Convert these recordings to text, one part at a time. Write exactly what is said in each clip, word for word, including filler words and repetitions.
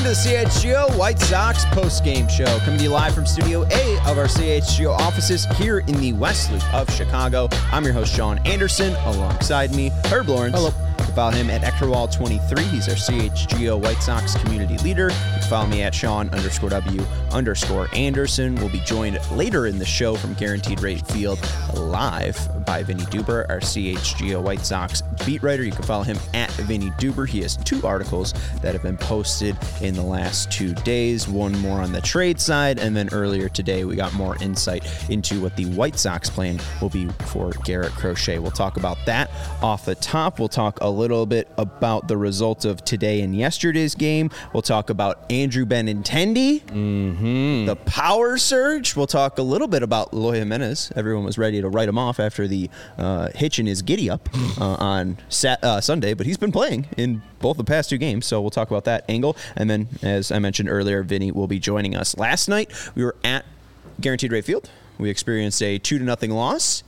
to the C H G O White Sox post-game show, coming to you live from Studio A of our C H G O offices here in the West Loop of Chicago. I'm your host, Sean Anderson. Alongside me, Herb Lawrence. Hello. You can follow him at Eckerwall twenty-three. He's our C H G O White Sox community leader. You can follow me at Sean underscore W underscore Anderson. We'll be joined later in the show from Guaranteed Rate Field live by Vinny Duber, our C H G O White Sox beat writer. You can follow him at Vinny Duber. He has two articles that have been posted in the last two days. One more on the trade side, and then earlier today we got more insight into what the White Sox plan will be for Garrett Crochet. We'll talk about that off the top. We'll talk a little bit about the results of today and yesterday's game. We'll talk about Andrew Benintendi, Mm-hmm. the power surge. We'll talk a little bit about Eloy Jimenez. Everyone was ready to write him off after the uh, hitch in his giddy up uh, on Sat- uh, Sunday, but he's been playing in both the past two games, so we'll talk about that angle. And then, as I mentioned earlier, Vinny will be joining us. Last night, we were at Guaranteed Rate Field. We experienced a two to nothing loss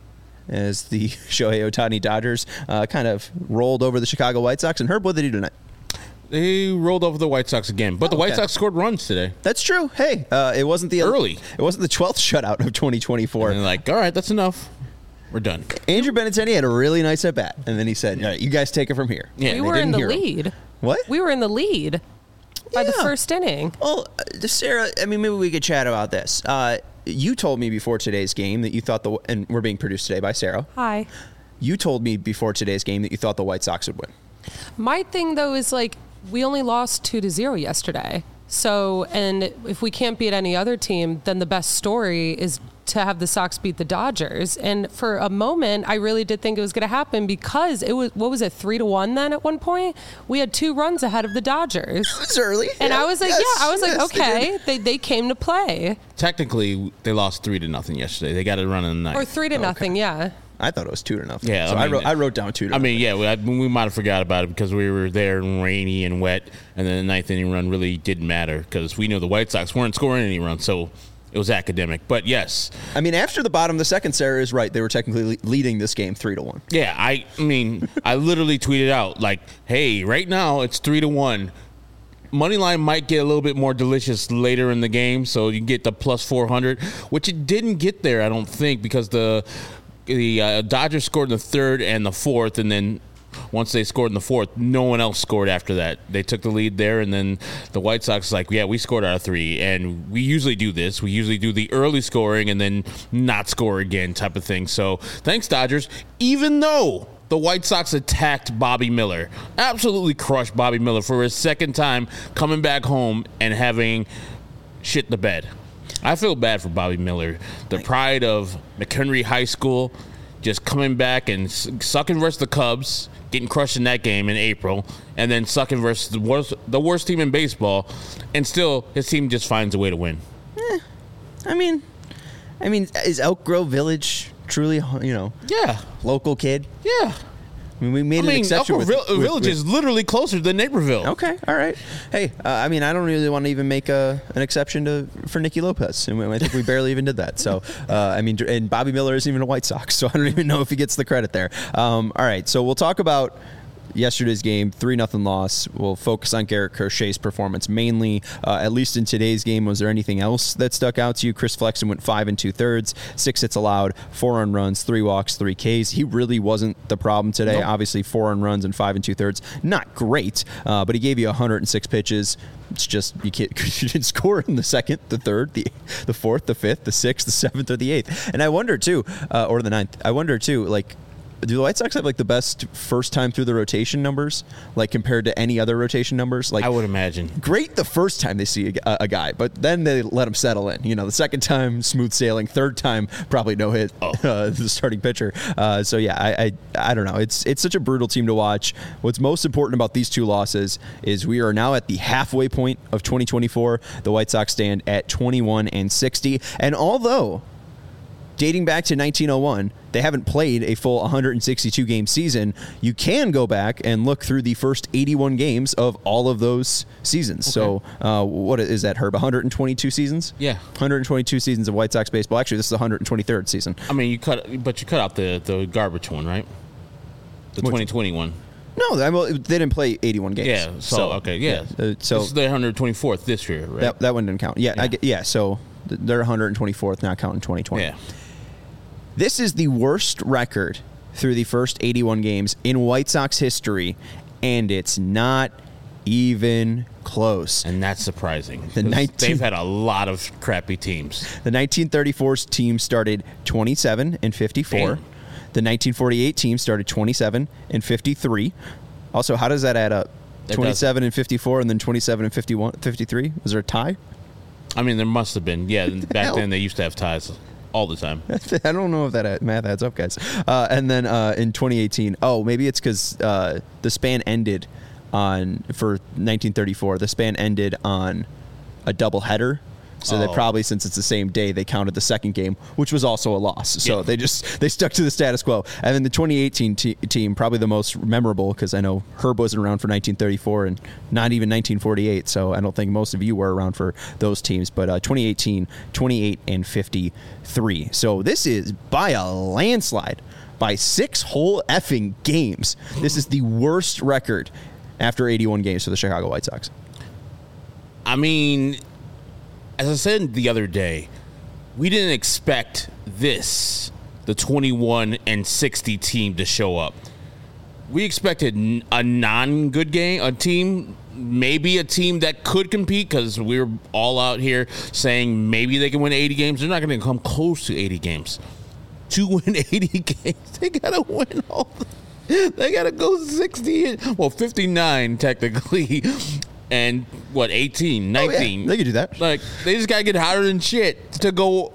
as the Shohei Ohtani Dodgers uh, kind of rolled over the Chicago White Sox. And Herb, what did they do tonight? They rolled over the White Sox again, but Oh, the White okay. Sox scored runs today. That's true. Hey, uh, it wasn't the Early. It wasn't the twelfth shutout of twenty twenty-four. And they're like, all right, that's enough. We're done. Andrew Benintendi had a really nice at bat, and then he said, "All right, you guys take it from here." Yeah, we they were in didn't the hear him. lead. What? We were in the lead by the Yeah. first inning. Well, uh, Sarah, I mean, maybe we could chat about this. Uh, you told me before today's game that you thought the, and we're being produced today by Sarah. Hi. You told me before today's game that you thought the White Sox would win. My thing, though, is like we only lost two to zero yesterday. So, and if we can't beat any other team, then the best story is to have the Sox beat the Dodgers. And for a moment, I really did think it was going to happen because it was, what was it, three to one then at one point? We had two runs ahead of the Dodgers. It's early. And Yeah. I was like, Yes, yeah, I was like, yes, they okay, did. they, they came to play. Technically, they lost three to nothing yesterday. They got a run in the Or ninth. three to nothing, yeah. I thought it was two to nothing. Yeah, so I I, mean, wrote, I wrote down two to I nothing. mean, yeah, we, I, we might have forgot about it because we were there and rainy and wet, and then the ninth inning run really didn't matter because we knew the White Sox weren't scoring any runs, so it was academic. But yes, I mean, after the bottom of the second, Sarah is right. They were technically le- leading this game three to one. yeah, I, I mean, I literally tweeted out like, "Hey, right now it's three to one." Moneyline might get a little bit more delicious later in the game, so you can get the plus four hundred, which it didn't get there, I don't think, because the the uh, Dodgers scored in the third and the fourth, and then once they scored in the fourth, no one else scored after that. They took the lead there, and then the White Sox like, yeah, we scored our three, and we usually do this. We usually do the early scoring and then not score again type of thing. So thanks, Dodgers, even though the White Sox attacked Bobby Miller, absolutely crushed Bobby Miller for his second time coming back home and having shit the bed. I feel bad for Bobby Miller, the pride of McHenry High School, just coming back and sucking versus the Cubs, getting crushed in that game in April, and then sucking versus the worst, the worst team in baseball, and still his team just finds a way to win. Eh, I mean, I mean, is Elk Grove Village truly, you know, Yeah, local kid? yeah. I mean, we made I an mean, exception Elko with, Vil- with- Village with- is literally closer than Naperville. Okay, all right. Hey, uh, I mean, I don't really want to even make a, an exception to for Nicky Lopez, and I think we barely even did that. So, uh, I mean, and Bobby Miller isn't even a White Sox, so I don't even know if he gets the credit there. Um, all right, so we'll talk about yesterday's game, three nothing loss. We'll focus on Garrett Crochet's performance mainly, uh, at least in today's game. Was there anything else that stuck out to you? Chris Flexen went five and two thirds, six hits allowed, four earned runs, three walks, three Ks. He really wasn't the problem today. Nope. Obviously, four earned runs and five and two thirds. Not great, uh, but he gave you one hundred six pitches. It's just you can't you didn't score in the second, the third, the the fourth, the fifth, the sixth, the seventh, or the eighth. And I wonder too, uh, or the ninth. I wonder too, like, do the White Sox have like the best first time through the rotation numbers, like compared to any other rotation numbers? Like, I would imagine. great the first time they see a, a guy, but then they let him settle in. You know, the second time smooth sailing, third time probably no hit. Oh. Uh, the starting pitcher. Uh, so yeah, I, I I don't know. It's it's such a brutal team to watch. What's most important about these two losses is we are now at the halfway point of twenty twenty-four. The White Sox stand at twenty-one and sixty, and although dating back to nineteen oh one, they haven't played a full one hundred sixty-two game season. You can go back and look through the first eighty-one games of all of those seasons. So, uh, what is that, Herb? one hundred twenty-two seasons? Yeah. one hundred twenty-two seasons of White Sox baseball. Actually, this is the one hundred twenty-third season. I mean, you cut, but you cut out the, the garbage one, right? The Which twenty twenty one. No, I mean, they didn't play eighty-one games. Yeah. So, so okay. Yeah. yeah. Uh, so this is their one hundred twenty-fourth this year, right? That that one didn't count. Yeah. Yeah. I get, yeah. So they're one hundred twenty-fourth, not counting twenty twenty. Yeah. This is the worst record through the first eighty-one games in White Sox history, and it's not even close. And that's surprising. The nineteen They've had a lot of crappy teams. The nineteen thirty-four team started twenty-seven and fifty-four. Damn. The nineteen forty-eight team started twenty-seven and fifty-three. Also, how does that add up? It twenty-seven and fifty-four, and then twenty-seven and fifty-one, fifty-three? Was there a tie? I mean, there must have been. Yeah, back hell? then they used to have ties all the time. I don't know if that math adds up, guys. Uh, and then uh, in twenty eighteen, oh, maybe it's because uh, the span ended on, for nineteen thirty-four, the span ended on a doubleheader. So Oh. they probably, since it's the same day, they counted the second game, which was also a loss. So Yeah. they just they stuck to the status quo. And then the twenty eighteen te- team, probably the most memorable, because I know Herb wasn't around for nineteen thirty-four and not even nineteen forty-eight. So I don't think most of you were around for those teams. But uh, twenty eighteen, twenty-eight and fifty-three. So this is by a landslide, by six whole effing games. This is the worst record after eighty-one games for the Chicago White Sox. I mean, as I said the other day, we didn't expect this, the twenty-one and sixty team, to show up. We expected n- a non-good game, a team, maybe a team that could compete, because we were all out here saying maybe they can win eighty games. They're not going to come close to eighty games. To win eighty games, they got to win all the, they got to go sixty, well, fifty-nine technically. And what, eighteen, nineteen? Oh, yeah, they could do that. Like, they just got to get hotter than shit to go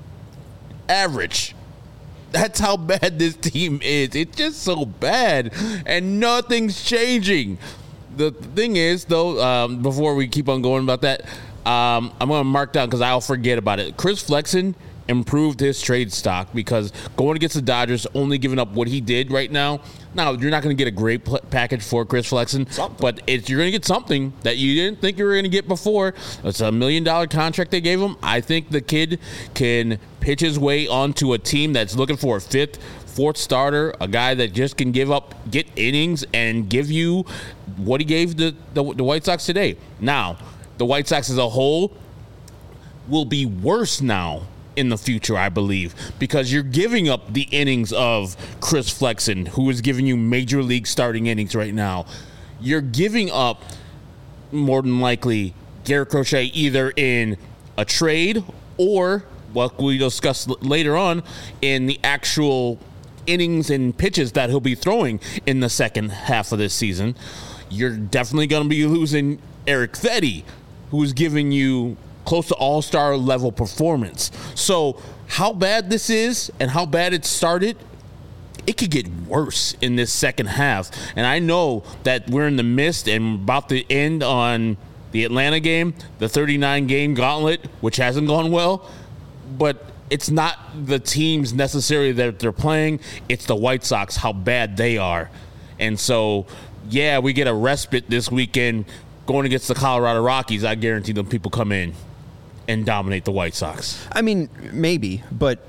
average. That's how bad this team is. It's just so bad, and nothing's changing. The thing is, though, um, before we keep on going about that, um, I'm going to mark down because I'll forget about it. Chris Flexen improved his trade stock because going against the Dodgers, only giving up what he did right now. Now, you're not going to get a great pl- package for Chris Flexen, Something. but it's, you're going to get something that you didn't think you were going to get before. It's a million dollar contract they gave him. I think the kid can pitch his way onto a team that's looking for a fifth, fourth starter, a guy that just can give up, get innings, and give you what he gave the, the, the White Sox today. Now, the White Sox as a whole will be worse now in the future, I believe, because you're giving up the innings of Chris Flexen, who is giving you major league starting innings right now. You're giving up, more than likely, Garrett Crochet either in a trade or, what we discuss later on, in the actual innings and pitches that he'll be throwing in the second half of this season. You're definitely going to be losing Eric Fetty, who's giving you close to all-star level performance. So how bad this is and how bad it started, it could get worse in this second half. And I know that we're in the midst and about to end on the Atlanta game, the thirty-nine game gauntlet, which hasn't gone well, but it's not the teams necessarily that they're playing. It's the White Sox, how bad they are. And so, yeah, we get a respite this weekend going against the Colorado Rockies. I guarantee them people come in and dominate the White Sox. I mean, maybe, but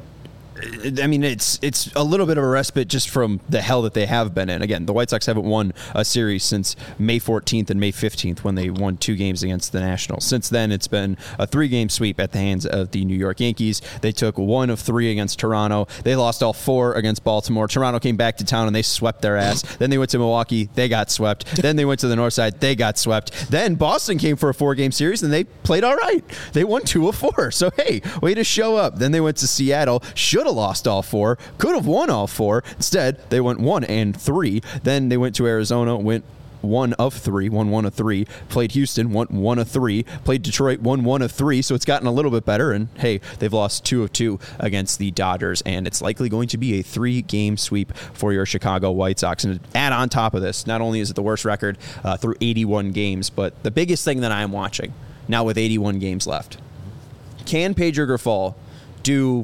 I mean, it's it's a little bit of a respite just from the hell that they have been in. Again, the White Sox haven't won a series since May fourteenth and May fifteenth when they won two games against the Nationals. Since then, it's been a three-game sweep at the hands of the New York Yankees. They took one of three against Toronto. They lost all four against Baltimore. Toronto came back to town and they swept their ass. Then they went to Milwaukee. They got swept. Then they went to the North Side. They got swept. Then Boston came for a four-game series and they played all right. They won two of four. So, hey, way to show up. Then they went to Seattle. Should have lost all four. Could have won all four. Instead, they went one and three. Then they went to Arizona, went one of three, won one of three. Played Houston, won one of three. Played Detroit, won one of three. So it's gotten a little bit better. And hey, they've lost two of two against the Dodgers. And it's likely going to be a three-game sweep for your Chicago White Sox. And to add on top of this, not only is it the worst record uh, through eighty-one games, but the biggest thing that I'm watching now with eighty-one games left, can Pedro Grifol do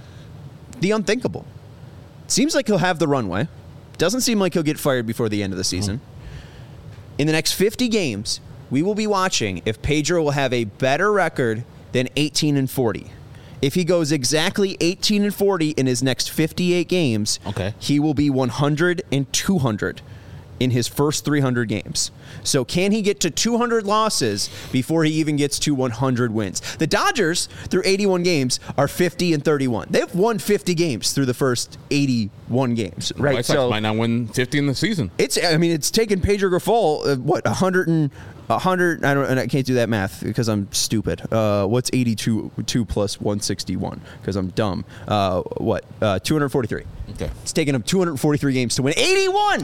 the unthinkable? Seems like he'll have the runway. Doesn't seem like he'll get fired before the end of the season. In the next fifty games, we will be watching if Pedro will have a better record than eighteen and forty. If he goes exactly eighteen and forty in his next fifty-eight games, Okay. he will be one hundred and two hundred in his first three hundred games. So can he get to two hundred losses before he even gets to one hundred wins? The Dodgers, through eighty-one games, are fifty and thirty-one. They've won fifty games through the first eighty-one games, right? White Sox so might not win fifty in the season. It's, I mean, it's taken Pedro Grifol, uh, what, one hundred and one hundred, I don't, and I can't do that math because I'm stupid. Uh, what's eighty-two two plus one sixty-one? Because I'm dumb. Uh, what? Uh, two hundred forty-three. Okay. It's taken him two hundred forty-three games to win eighty-one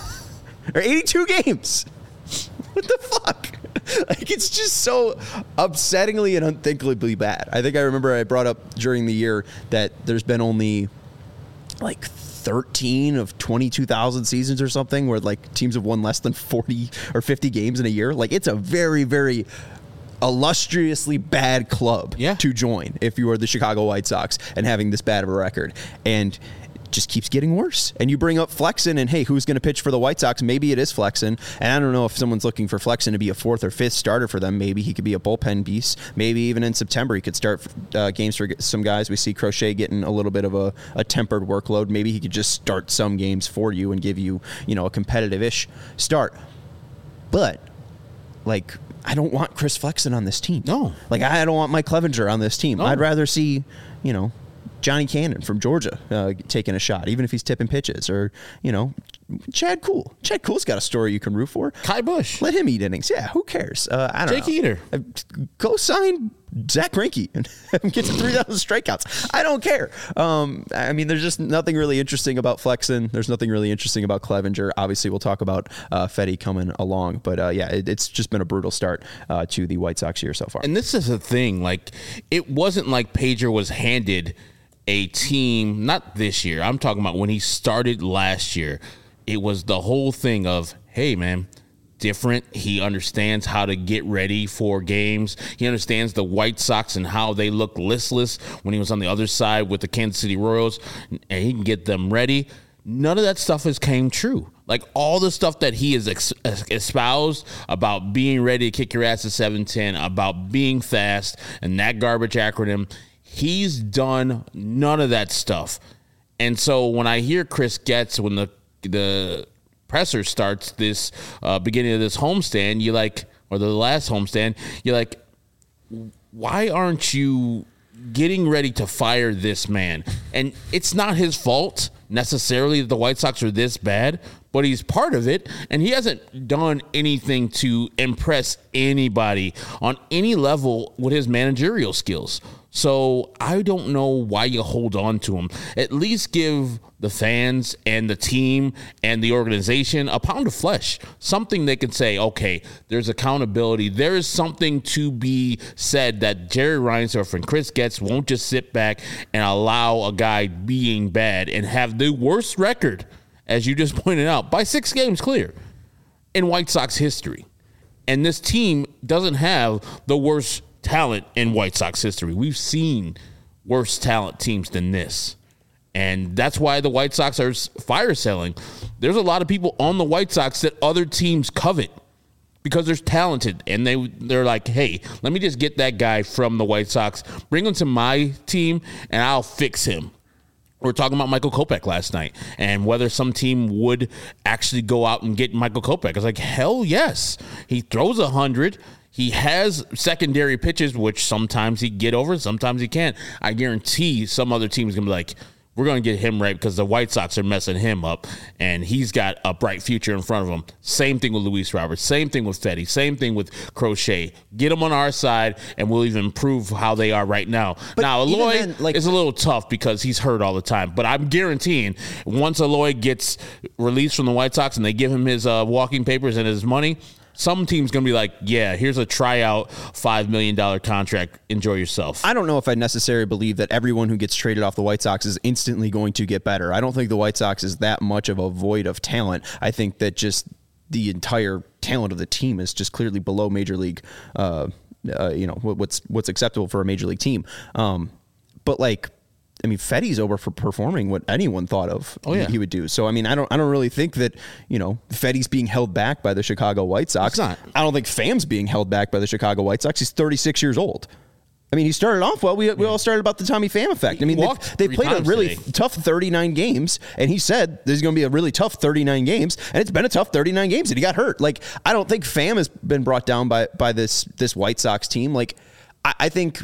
or eighty-two games. What the fuck? Like, it's just so upsettingly and unthinkably bad. I think I remember I brought up during the year that there's been only like thirteen of twenty-two thousand seasons or something where like teams have won less than forty or fifty games in a year. Like, it's a very, very illustriously bad club yeah. to join if you are the Chicago White Sox and having this bad of a record. And it just keeps getting worse. And you bring up Flexen, and hey, who's going to pitch for the White Sox? Maybe it is Flexen. And I don't know if someone's looking for Flexen to be a fourth or fifth starter for them. Maybe he could be a bullpen beast. Maybe even in September he could start uh, games for some guys. We see Crochet getting a little bit of a, a tempered workload. Maybe he could just start some games for you and give you, you know, a competitive-ish start. But, like, I don't want Chris Flexen on this team. No. Like, I don't want Mike Clevenger on this team. No. I'd rather see, you know, Johnny Cannon from Georgia uh, taking a shot, even if he's tipping pitches, or, you know, Chad Kuhl. Chad Kuhl's got a story you can root for. Kai Bush. Let him eat innings. Yeah, who cares? Uh, I don't Jake know. Eater. Uh, go sign Zach Greinke and have him get to three thousand strikeouts. I don't care. Um, I mean, there's just nothing really interesting about Flexen. There's nothing really interesting about Clevenger. Obviously, we'll talk about uh, Fetty coming along. But, uh, yeah, it, it's just been a brutal start uh, to the White Sox year so far. And this is the thing. Like, it wasn't like Pedro was handed a team, not this year. I'm talking about when he started last year. It was the whole thing of, hey, man, different. He understands how to get ready for games. He understands the White Sox and how they look listless when he was on the other side with the Kansas City Royals, and he can get them ready. None of that stuff has came true. Like, all the stuff that he has ex- espoused about being ready to kick your ass at seven ten, about being fast, and that garbage acronym, he's done none of that stuff. And so when I hear Chris Getz, when the the presser starts this uh, beginning of this homestand, you like, or the last homestand, you're like, why aren't you getting ready to fire this man? And it's not his fault necessarily that the White Sox are this bad, but he's part of it, and he hasn't done anything to impress anybody on any level with his managerial skills. So I don't know why you hold on to him. At least give the fans and the team and the organization a pound of flesh, something they can say, okay, there's accountability. There is something to be said that Jerry Reinsdorf and Chris Getz won't just sit back and allow a guy being bad and have the worst record, as you just pointed out, by six games clear in White Sox history. And this team doesn't have the worst talent in White Sox history. We've seen worse talent teams than this. And that's why the White Sox are fire selling. There's a lot of people on the White Sox that other teams covet because they're talented. And they, they're like, hey, let me just get that guy from the White Sox, bring him to my team, and I'll fix him. We were talking about Michael Kopech last night and whether some team would actually go out and get Michael Kopech. I was like, hell yes. He throws one hundred. He has secondary pitches, which sometimes he get over, sometimes he can't. I guarantee some other team is going to be like, we're going to get him right because the White Sox are messing him up, and he's got a bright future in front of him. Same thing with Luis Roberts. Same thing with Fetty. Same thing with Crochet. Get them on our side, and we'll even improve how they are right now. But now, Eloy then, like, is a little tough because he's hurt all the time, but I'm guaranteeing once Eloy gets released from the White Sox and they give him his uh, walking papers and his money, some team's going to be like, yeah, here's a tryout five million dollars contract. Enjoy yourself. I don't know if I necessarily believe that everyone who gets traded off the White Sox is instantly going to get better. I don't think the White Sox is that much of a void of talent. I think that just the entire talent of the team is just clearly below major league, uh, uh, you know, what's what's acceptable for a major league team. Um, but like, I mean, Fetty's over for performing what anyone thought of oh, yeah. he would do. So, I mean, I don't I don't really think that, you know, Fetty's being held back by the Chicago White Sox. It's not. I don't think Fam's being held back by the Chicago White Sox. He's thirty-six years old. I mean, he started off well. We, we Yeah. all started about the Tommy Pham effect. I mean, walked they three played a times really today. tough thirty-nine games, and he said there's going to be a really tough thirty-nine games, and it's been a tough thirty-nine games, and he got hurt. Like, I don't think Pham has been brought down by by this this White Sox team. Like, I, I think.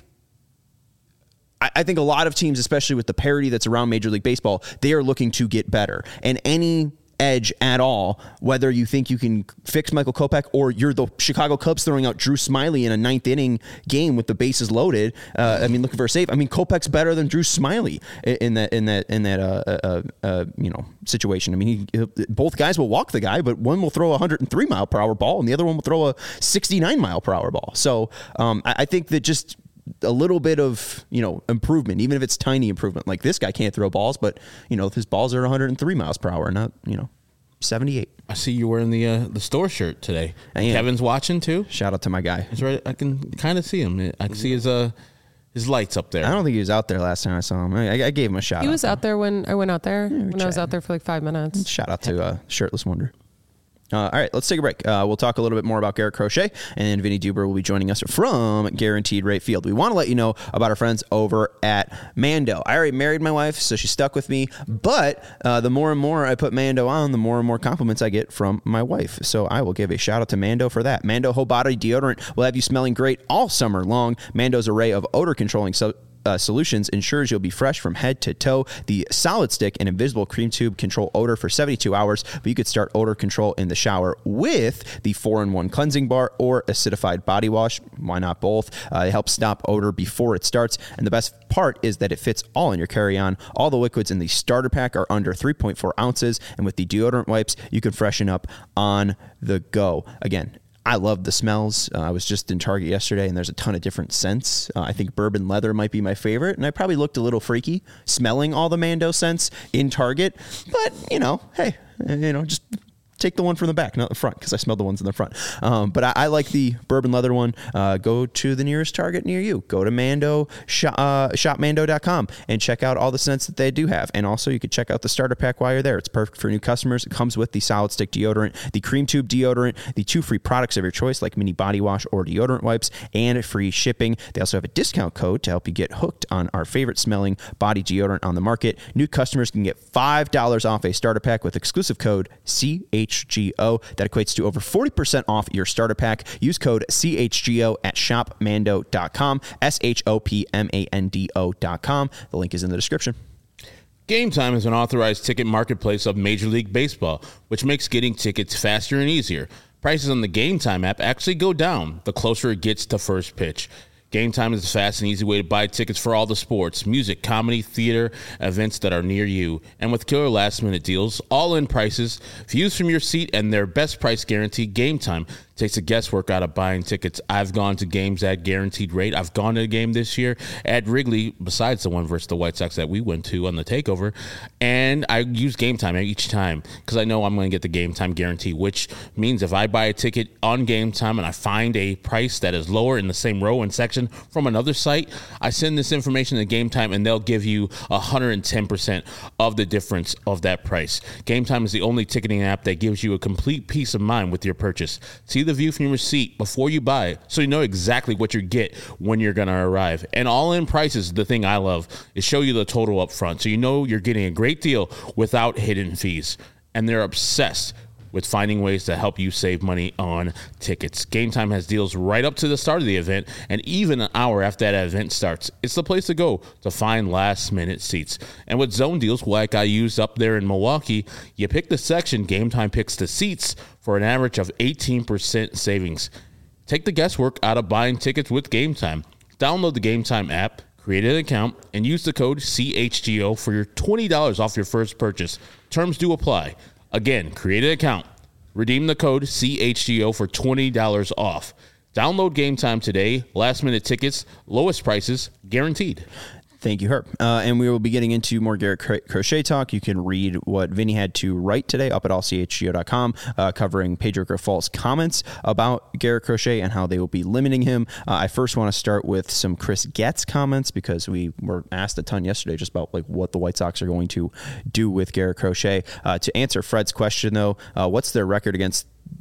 I, I think a lot of teams, especially with the parity that's around Major League Baseball, they are looking to get better. And any edge at all, whether you think you can fix Michael Kopech or you're the Chicago Cubs throwing out Drew Smyly in a ninth inning game with the bases loaded. Uh, I mean, looking for a save. I mean, Kopech's better than Drew Smyly in that in that in that uh, uh, uh, you know situation. I mean, he, both guys will walk the guy, but one will throw a one hundred three mile per hour ball, and the other one will throw a sixty-nine mile per hour ball. So um, I, I think that just a little bit of, you know, improvement, even if it's tiny improvement. Like, this guy can't throw balls, but, you know, his balls are one hundred three miles per hour, not, you know, seventy-eight. I see you wearing the uh, the store shirt today. I am. Kevin's watching too. Shout out to my guy. He's right. I can kind of see him. I can see his uh his lights up there. I don't think he was out there last time I saw him. I, I gave him a shout He out. was out there when I went out there, we when I was chatted. out there for like five minutes. Shout out to uh, Shirtless Wonder. Uh, all right, let's take a break. Uh, we'll talk a little bit more about Garrett Crochet, and then Vinny Duber will be joining us from Guaranteed Rate Field. We want to let you know about our friends over at Mando. I already married my wife, so she's stuck with me, but uh, the more and more I put Mando on, the more and more compliments I get from my wife. So I will give a shout out to Mando for that. Mando Whole Body Deodorant will have you smelling great all summer long. Mando's array of odor controlling sub- Uh, solutions ensures you'll be fresh from head to toe. The Solid Stick and Invisible Cream Tube control odor for seventy-two hours, but you could start odor control in the shower with the four in one cleansing bar or acidified body wash. Why not both? Uh, they help stop odor before it starts, and the best part is that it fits all in your carry-on. All the liquids in the starter pack are under three point four ounces, and with the deodorant wipes, you can freshen up on the go. Again, I love the smells. Uh, I was just in Target yesterday, and there's a ton of different scents. Uh, I think bourbon leather might be my favorite, and I probably looked a little freaky smelling all the Mando scents in Target. But, you know, hey, you know, just take the one from the back, not the front, because I smelled the ones in the front. Um, but I, I like the bourbon leather one. Uh, go to the nearest Target near you. Go to Mando, shop, uh, shop mando dot com and check out all the scents that they do have. And also, you could check out the starter pack while you're there. It's perfect for new customers. It comes with the Solid Stick deodorant, the Cream Tube deodorant, the two free products of your choice, like mini body wash or deodorant wipes, and free shipping. They also have a discount code to help you get hooked on our favorite smelling body deodorant on the market. New customers can get five dollars off a starter pack with exclusive code C H G O. That equates to over forty percent off your starter pack. Use code C H G O at shop mando dot com, S H O P M A N D O dot com. The link is in the description. Game Time is an authorized ticket marketplace of Major League Baseball, which makes getting tickets faster and easier. Prices on the Game Time app actually go down the closer it gets to first pitch. Game Time is a fast and easy way to buy tickets for all the sports, music, comedy, theater, events that are near you. And with killer last-minute deals, all-in prices, views from your seat, and their best price guarantee, Game Time takes the guesswork out of buying tickets. I've gone to games at guaranteed rate. I've gone to a game this year at Wrigley, besides the one versus the White Sox that we went to on the takeover, and I use Game Time each time because I know I'm going to get the Game Time guarantee, which means if I buy a ticket on Game Time and I find a price that is lower in the same row and section from another site, I send this information to Game Time and they'll give you one hundred ten percent of the difference of that price. Game Time is the only ticketing app that gives you a complete peace of mind with your purchase. See the view from your seat before you buy, so you know exactly what you get when you're going to arrive. And all-in prices, the thing I love, is show you the total up front, so you know you're getting a great deal without hidden fees. And they're obsessed with finding ways to help you save money on tickets. Game Time has deals right up to the start of the event and even an hour after that event starts. It's the place to go to find last-minute seats. And with zone deals like I used up there in Milwaukee, you pick the section, Game Time picks the seats for an average of eighteen percent savings. Take the guesswork out of buying tickets with Game Time. Download the Game Time app, create an account, and use the code C H G O for your twenty dollars off your first purchase. Terms do apply. Again, create an account, redeem the code C H G O for twenty dollars off. Download Game Time today. Last minute tickets, lowest prices, guaranteed. Thank you, Herb. Uh, and we will be getting into more Garrett Cro- Crochet talk. You can read what Vinny had to write today up at all c h g o dot com, uh, covering Pedro Grifal's comments about Garrett Crochet and how they will be limiting him. Uh, I first want to start with some Chris Getz comments because we were asked a ton yesterday just about like what the White Sox are going to do with Garrett Crochet. Uh, to answer Fred's question, though, uh, what's their record against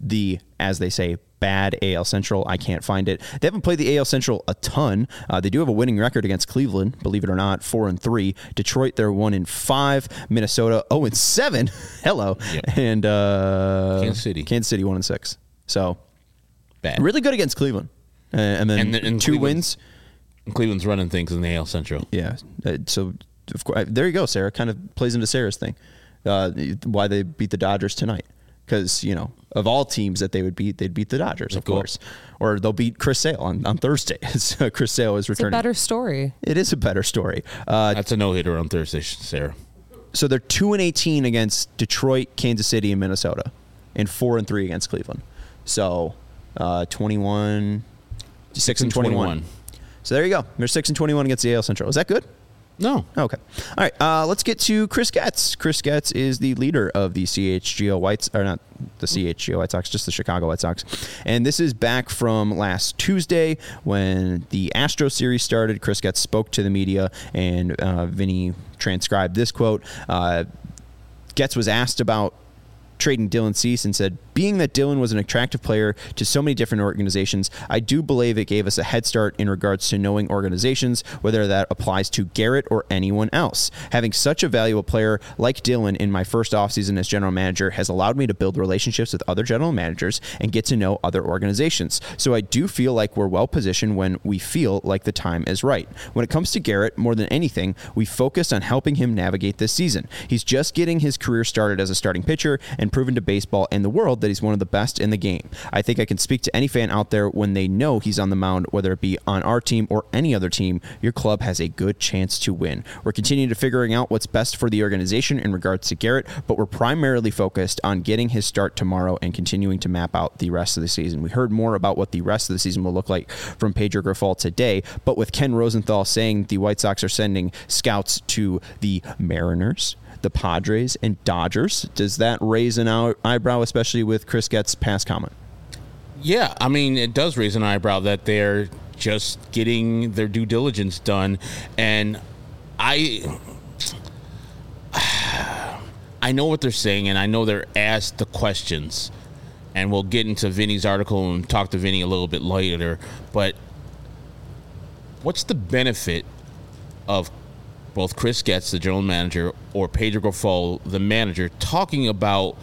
the, as they say, bad A L Central. I can't find it. They haven't played the A L Central a ton. Uh, they do have a winning record against Cleveland, believe it or not, four and three. Detroit, they're one and five. Minnesota, oh and seven. Hello. Yep. And uh, Kansas City, Kansas City, one and six. So bad. Really good against Cleveland, uh, and then and, and two wins. Cleveland's running things in the A L Central. Yeah. Uh, so of course, there you go. Sarah kind of plays into Sarah's thing. Uh, why they beat the Dodgers tonight. Because, you know, of all teams that they would beat, they'd beat the Dodgers, of cool. course. Or they'll beat Chris Sale on, on Thursday. So Chris Sale is returning. It's a better story. It is a better story. Uh, That's a no-hitter on Thursday, Sarah. So they're two and eighteen against Detroit, Kansas City, and Minnesota. And four and three against Cleveland. So uh, twenty-one, six and twenty-one. So there you go. They're six and twenty-one against the A L Central. Is that good? No. Okay. All right. Uh, let's get to Chris Getz. Chris Getz is the leader of the C H G O Whites, or not the C H G O White Sox, just the Chicago White Sox. And this is back from last Tuesday when the Astro series started. Chris Getz spoke to the media, and uh, Vinny transcribed this quote. Uh, Getz was asked about trading Dylan Cease and said, being that Dylan was an attractive player to so many different organizations, I do believe it gave us a head start in regards to knowing organizations, whether that applies to Garrett or anyone else. Having such a valuable player like Dylan in my first offseason as general manager has allowed me to build relationships with other general managers and get to know other organizations. So I do feel like we're well positioned when we feel like the time is right. When it comes to Garrett, more than anything, we focused on helping him navigate this season. He's just getting his career started as a starting pitcher and proven to baseball and the world that he's one of the best in the game. I think I can speak to any fan out there when they know he's on the mound, whether it be on our team or any other team, your club has a good chance to win. We're continuing to figuring out what's best for the organization in regards to Garrett, but we're primarily focused on getting his start tomorrow and continuing to map out the rest of the season. We heard more about what the rest of the season will look like from Pedro Grifol today, but with Ken Rosenthal saying the White Sox are sending scouts to the Mariners, the Padres, and Dodgers, does that raise an eyebrow, especially with Chris Getz's past comment? Yeah, I mean, it does raise an eyebrow that they're just getting their due diligence done. And I I know what they're saying, and I know they're asked the questions. And we'll get into Vinny's article and talk to Vinny a little bit later. But what's the benefit of both Chris Getz, the general manager, or Pedro Grifol, the manager, talking about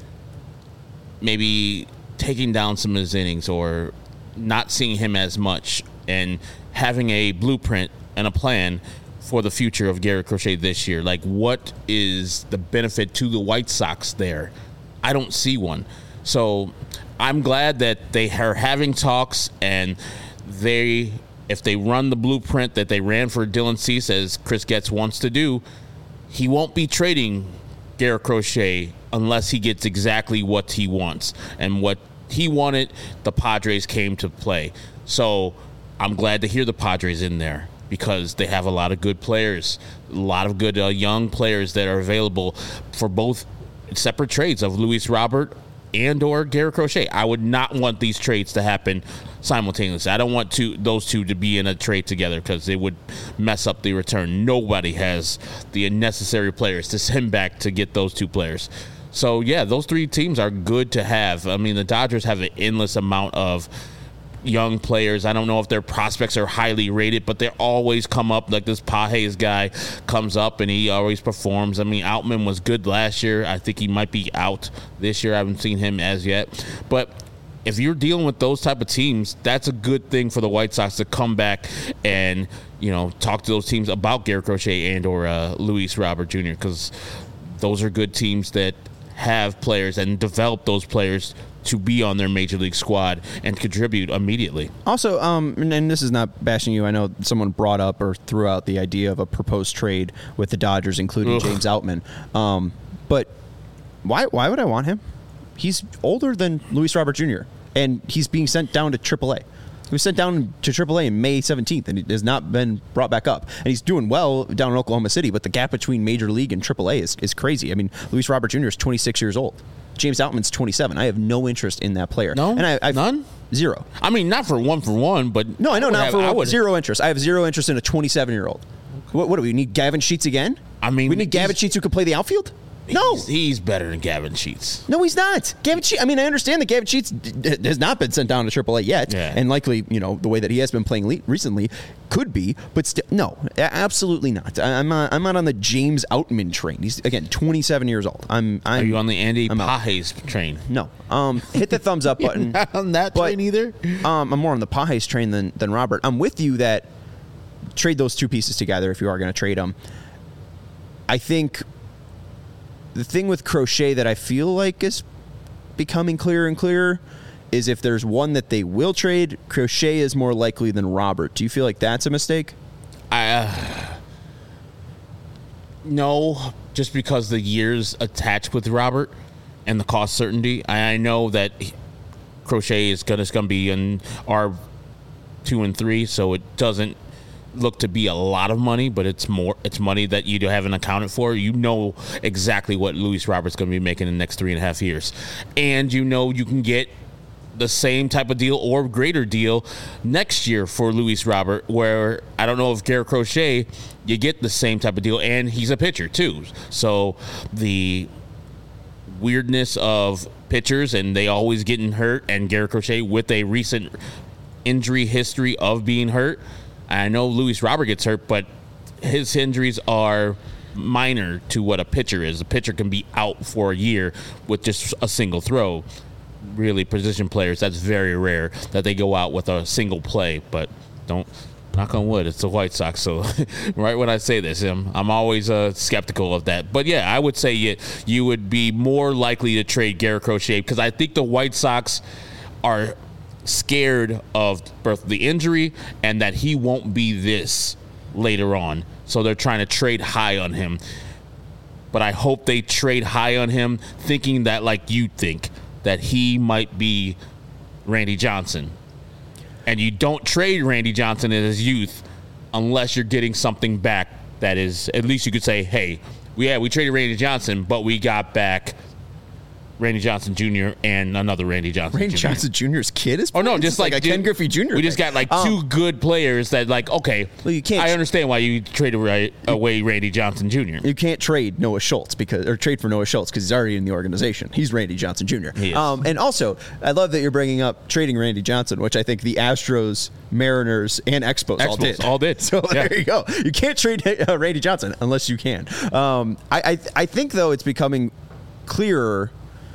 maybe taking down some of his innings or not seeing him as much and having a blueprint and a plan for the future of Garrett Crochet this year? Like, what is the benefit to the White Sox there? I don't see one. So I'm glad that they are having talks, and they... if they run the blueprint that they ran for Dylan Cease, as Chris Getz wants to do, he won't be trading Garrett Crochet unless he gets exactly what he wants. And what he wanted, the Padres came to play. So I'm glad to hear the Padres in there because they have a lot of good players, a lot of good uh, young players that are available for both separate trades of Luis Robert and or Garrett Crochet. I would not want these trades to happen simultaneously. I don't want to, those two to be in a trade together because they would mess up the return. Nobody has the necessary players to send back to get those two players. So, yeah, those three teams are good to have. I mean, the Dodgers have an endless amount of young players. I don't know if their prospects are highly rated, but they always come up. Like this Pages guy comes up and he always performs. I mean, Outman was good last year. I think he might be out this year. I haven't seen him as yet. But if you're dealing with those type of teams, that's a good thing for the White Sox to come back and, you know, talk to those teams about Garrett Crochet and or uh, Luis Robert Junior because those are good teams that have players and develop those players to be on their major league squad and contribute immediately. Also, um, and, and this is not bashing you. I know someone brought up or threw out the idea of a proposed trade with the Dodgers, including Ugh. James Outman. Um, but why? Why would I want him? He's older than Luis Robert Junior, and he's being sent down to triple A. He was sent down to triple A on May seventeenth, and he has not been brought back up. And he's doing well down in Oklahoma City, but the gap between Major League and triple A is, is crazy. I mean, Luis Robert Junior is twenty-six years old. James Outman's twenty-seven. I have no interest in that player. No? And I, I've, None? Zero. I mean, not for one for one, but... No, I know, I not have, for one. would, Zero interest. I have zero interest in a twenty-seven-year-old. What, what do we need, Gavin Sheets again? I mean... We need Gavin Sheets who could play the outfield? No. He's, he's better than Gavin Sheets. No, he's not. Gavin Sheets, I mean, I understand that Gavin Sheets d- has not been sent down to triple A yet, Yeah. and likely, you know, the way that he has been playing le- recently could be, but still, no, a- absolutely not. I- I'm not, I'm not on the James Outman train. He's, again, twenty-seven years old. I'm, I'm Are you on the Andy I'm out. Pages train? No. Um, hit the thumbs up button. Not on that But, train either? Um, I'm more on the Pages train than, than Robert. I'm with you that trade those two pieces together if you are going to trade them. I think the thing with Crochet that I feel like is becoming clearer and clearer is if there's one that they will trade, Crochet is more likely than Robert. Do you feel like that's a mistake? I uh, no, just because the years attached with Robert and the cost certainty. I, I know that he, Crochet is gonna, is gonna be in our two and three, so it doesn't look to be a lot of money, but it's more it's money that you haven't accounted for. You know exactly what Luis Robert's going to be making in the next three and a half years, and you know you can get the same type of deal or greater deal next year for Luis Robert, where I don't know if Garrett Crochet, you get the same type of deal, and he's a pitcher too, so the weirdness of pitchers and they always getting hurt, and Garrett Crochet with a recent injury history of being hurt. I know Luis Robert gets hurt, but his injuries are minor to what a pitcher is. A pitcher can be out for a year with just a single throw. Really, position players, that's very rare that they go out with a single play. But don't, knock on wood, it's the White Sox. So right when I say this, I'm, I'm always uh, skeptical of that. But yeah, I would say you, you would be more likely to trade Garrett Crochet because I think the White Sox are scared of both the injury and that he won't be this later on. So they're trying to trade high on him. But I hope they trade high on him thinking that, like you think, that he might be Randy Johnson. And you don't trade Randy Johnson in his youth unless you're getting something back that is, at least you could say, hey, we, yeah, we traded Randy Johnson, but we got back Randy Johnson Junior and another Randy Johnson Randy Junior Johnson Junior's kid is Oh, no, playing? just It's like, a dude, Ken Griffey Junior We just got like Um, two good players that, like, okay, Well, you can't I tr- understand why you traded right away Randy Johnson Junior You can't trade Noah Schultz because, or trade for Noah Schultz because he's already in the organization. He's Randy Johnson Junior He is. Um, and also, I love that you're bringing up trading Randy Johnson, which I think the Astros, Mariners, and Expos, all Expos did. all did. So Yeah. there you go. You can't trade uh, Randy Johnson unless you can. Um, I, I I think though it's becoming clearer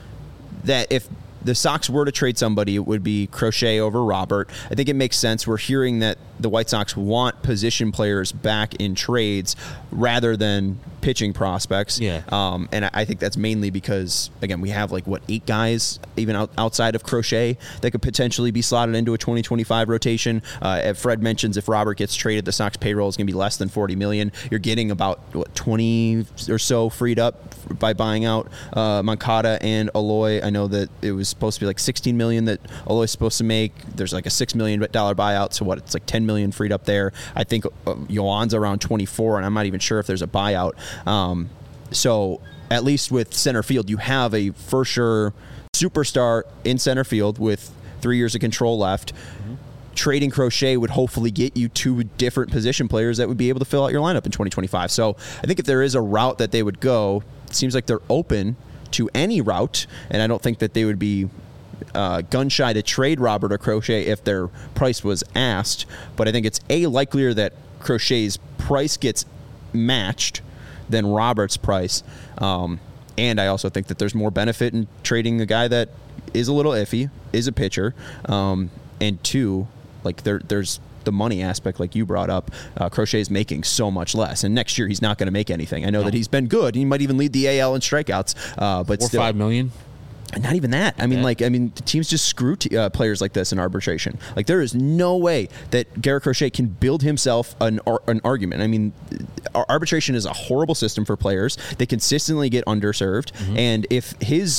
that if the Sox were to trade somebody, it would be Crochet over Robert. I think it makes sense. We're hearing that the White Sox want position players back in trades rather than pitching prospects. Yeah. Um, and I, I think that's mainly because, again, we have like, what, eight guys even out, outside of Crochet that could potentially be slotted into a twenty twenty-five rotation. Uh, if Fred mentions if Robert gets traded, the Sox payroll is going to be less than forty million dollars. You're getting about, what, twenty or so freed up by buying out uh, Moncada and Aloy. I know that it was supposed to be like sixteen million dollars that Aloy's supposed to make. There's like a six million dollars buyout, so what, it's like ten million dollars freed up there. I think uh, Yoan's around twenty-four, and I'm not even sure if there's a buyout. Um, so at least with center field, you have a for sure superstar in center field with three years of control left. Mm-hmm. Trading Crochet would hopefully get you two different position players that would be able to fill out your lineup in twenty twenty-five. So I think if there is a route that they would go, it seems like they're open to any route, and I don't think that they would be uh, gun shy to trade Robert or Crochet if their price was asked. But I think it's a likelier that Crochet's price gets matched than Robert's price. Um, and I also think that there's more benefit in trading a guy that is a little iffy, is a pitcher, um, and two, like there, there's the money aspect, like you brought up. Uh, Crochet is making so much less, and next year he's not going to make anything. I know no. that he's been good. He might even lead the A L in strikeouts, uh, but Four still, five million. Not even that. I mean, yeah. like, I mean, the teams just screw t- uh, players like this in arbitration. Like, there is no way that Garrett Crochet can build himself an ar- an argument. I mean, arbitration is a horrible system for players. They consistently get underserved, mm-hmm. and if his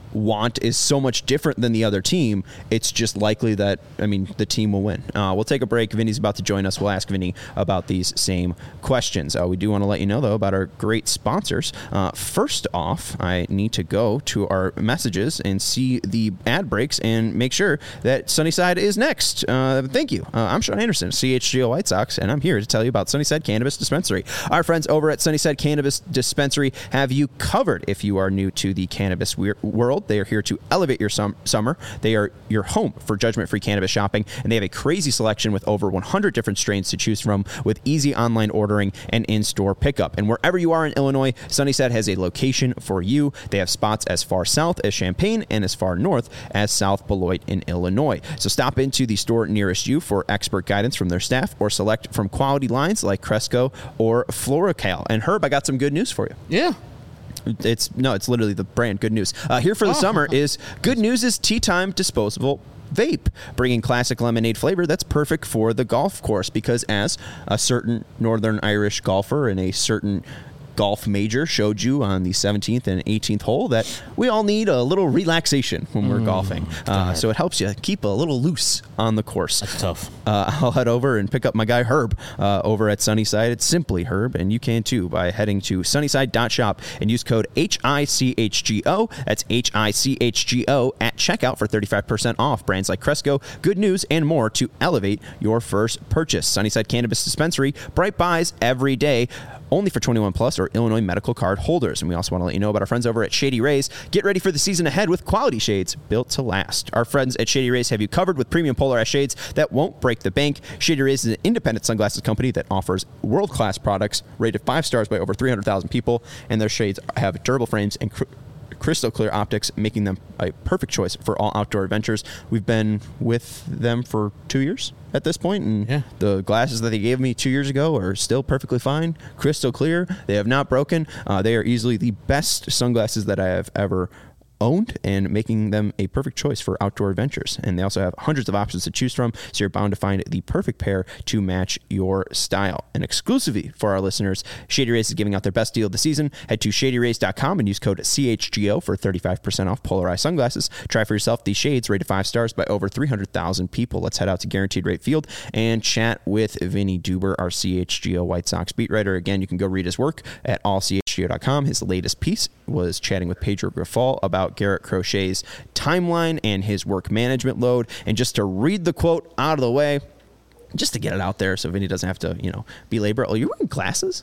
want is so much different than the other team, it's just likely that, I mean, the team will win. Uh, we'll take a break. Vinny's about to join us. We'll ask Vinny about these same questions. Uh, we do want to let you know, though, about our great sponsors. Uh, first off, I need to go to our messages and see the ad breaks and make sure that Sunnyside is next. Uh, thank you. Uh, I'm Sean Anderson, C H G O White Sox, and I'm here to tell you about Sunnyside Cannabis Dispensary. Our friends over at Sunnyside Cannabis Dispensary have you covered if you are new to the cannabis we- world. They are here to elevate your sum- summer. They are your home for judgment-free cannabis shopping, and they have a crazy selection with over one hundred different strains to choose from with easy online ordering and in-store pickup. And wherever you are in Illinois, Sunnyside has a location for you. They have spots as far south as Champaign and as far north as South Beloit in Illinois. So stop into the store nearest you for expert guidance from their staff or select from quality lines like Cresco or Floracal. And Herb, I got some good news for you. Yeah. It's no, it's literally the brand Good News. Uh, here for the oh. summer is Good News is Tea Time Disposable Vape, bringing classic lemonade flavor that's perfect for the golf course, because as a certain Northern Irish golfer in a certain golf major showed you on the seventeenth and eighteenth hole, that we all need a little relaxation when we're mm, golfing. Uh, so it helps you keep a little loose on the course. That's tough. Uh, I'll head over and pick up my guy Herb uh, over at Sunnyside. It's simply Herb, and you can too by heading to sunnyside dot shop and use code H I C H G O. That's H I C H G O at checkout for thirty-five percent off brands like Cresco, Good News, and more to elevate your first purchase. Sunnyside Cannabis Dispensary, bright buys every day. Only for twenty-one plus or Illinois medical card holders. And we also want to let you know about our friends over at Shady Rays. Get ready for the season ahead with quality shades built to last. Our friends at Shady Rays have you covered with premium polarized shades that won't break the bank. Shady Rays is an independent sunglasses company that offers world-class products rated five stars by over three hundred thousand people. And their shades have durable frames and cr- crystal clear optics, making them a perfect choice for all outdoor adventures. We've been with them for two years at this point, and yeah. the glasses that they gave me two years ago are still perfectly fine, crystal clear. They have not broken. Uh, they are easily the best sunglasses that I have ever owned, and making them a perfect choice for outdoor adventures. And they also have hundreds of options to choose from, so you're bound to find the perfect pair to match your style. And exclusively for our listeners, Shady Rays is giving out their best deal of the season. Head to shady rays dot com and use code C H G O for thirty-five percent off polarized sunglasses. Try for yourself these shades rated five stars by over three hundred thousand people. Let's head out to Guaranteed Rate Field and chat with Vinny Duber, our C H G O White Sox beat writer. Again, you can go read his work at all c h g o dot com. His latest piece was chatting with Pedro Grifol about Garrett Crochet's timeline and his work management load. And just to read the quote out of the way, just to get it out there so Vinny doesn't have to, you know, belabor. Oh, you're wearing glasses?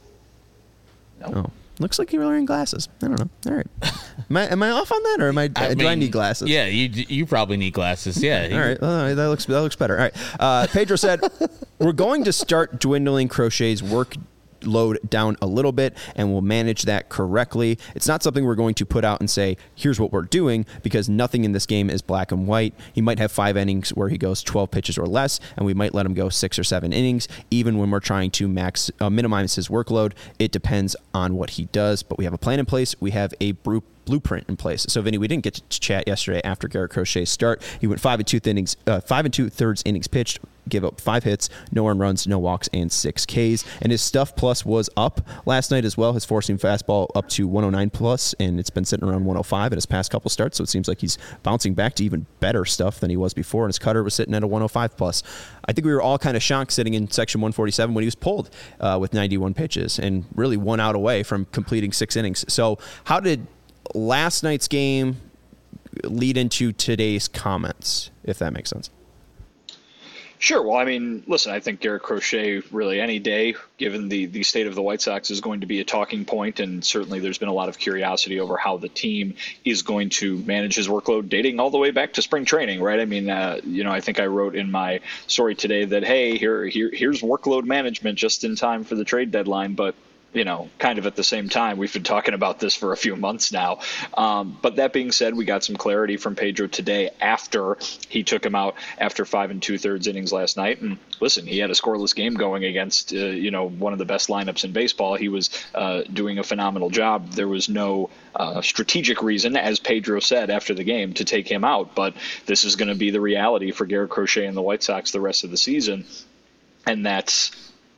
No. Oh, looks like you're wearing glasses. I don't know. All right. Am I, am I off on that, or am I, I do mean, I need glasses? Yeah, you you probably need glasses. Yeah. All right. Well, that looks that looks better. All right. Uh, Pedro said, we're going to start dwindling Crochet's work load down a little bit, and we'll manage that correctly. It's not something we're going to put out and say, here's what we're doing, because nothing in this game is black and white. He might have five innings where he goes twelve pitches or less, and we might let him go six or seven innings, even when we're trying to max uh, minimize his workload. It depends on what he does, but we have a plan in place. We have a bru- blueprint in place. So, Vinny, we didn't get to chat yesterday after Garrett Crochet's start. He went five and two innings, uh, five and two thirds innings pitched, give up five hits, no earned runs, no walks, and six Ks. And his stuff plus was up last night as well. His four-seam fastball up to one oh nine plus, and it's been sitting around one oh five in his past couple starts. So it seems like he's bouncing back to even better stuff than he was before. And his cutter was sitting at a one oh five plus. I think we were all kind of shocked sitting in section one forty-seven when he was pulled uh, with ninety-one pitches and really one out away from completing six innings. So how did last night's game lead into today's comments, if that makes sense? Sure. Well, I mean, listen, I think Garrett Crochet, really any day, given the, the state of the White Sox, is going to be a talking point. And certainly there's been a lot of curiosity over how the team is going to manage his workload, dating all the way back to spring training, right? I mean, uh, you know, I think I wrote in my story today that, hey, here, here here's workload management just in time for the trade deadline. But you know, kind of at the same time, we've been talking about this for a few months now. Um, but that being said, we got some clarity from Pedro today after he took him out after five and two thirds innings last night. And listen, he had a scoreless game going against, uh, you know, one of the best lineups in baseball. He was uh, doing a phenomenal job. There was no uh, strategic reason, as Pedro said after the game, to take him out. But this is going to be the reality for Garrett Crochet and the White Sox the rest of the season. And that's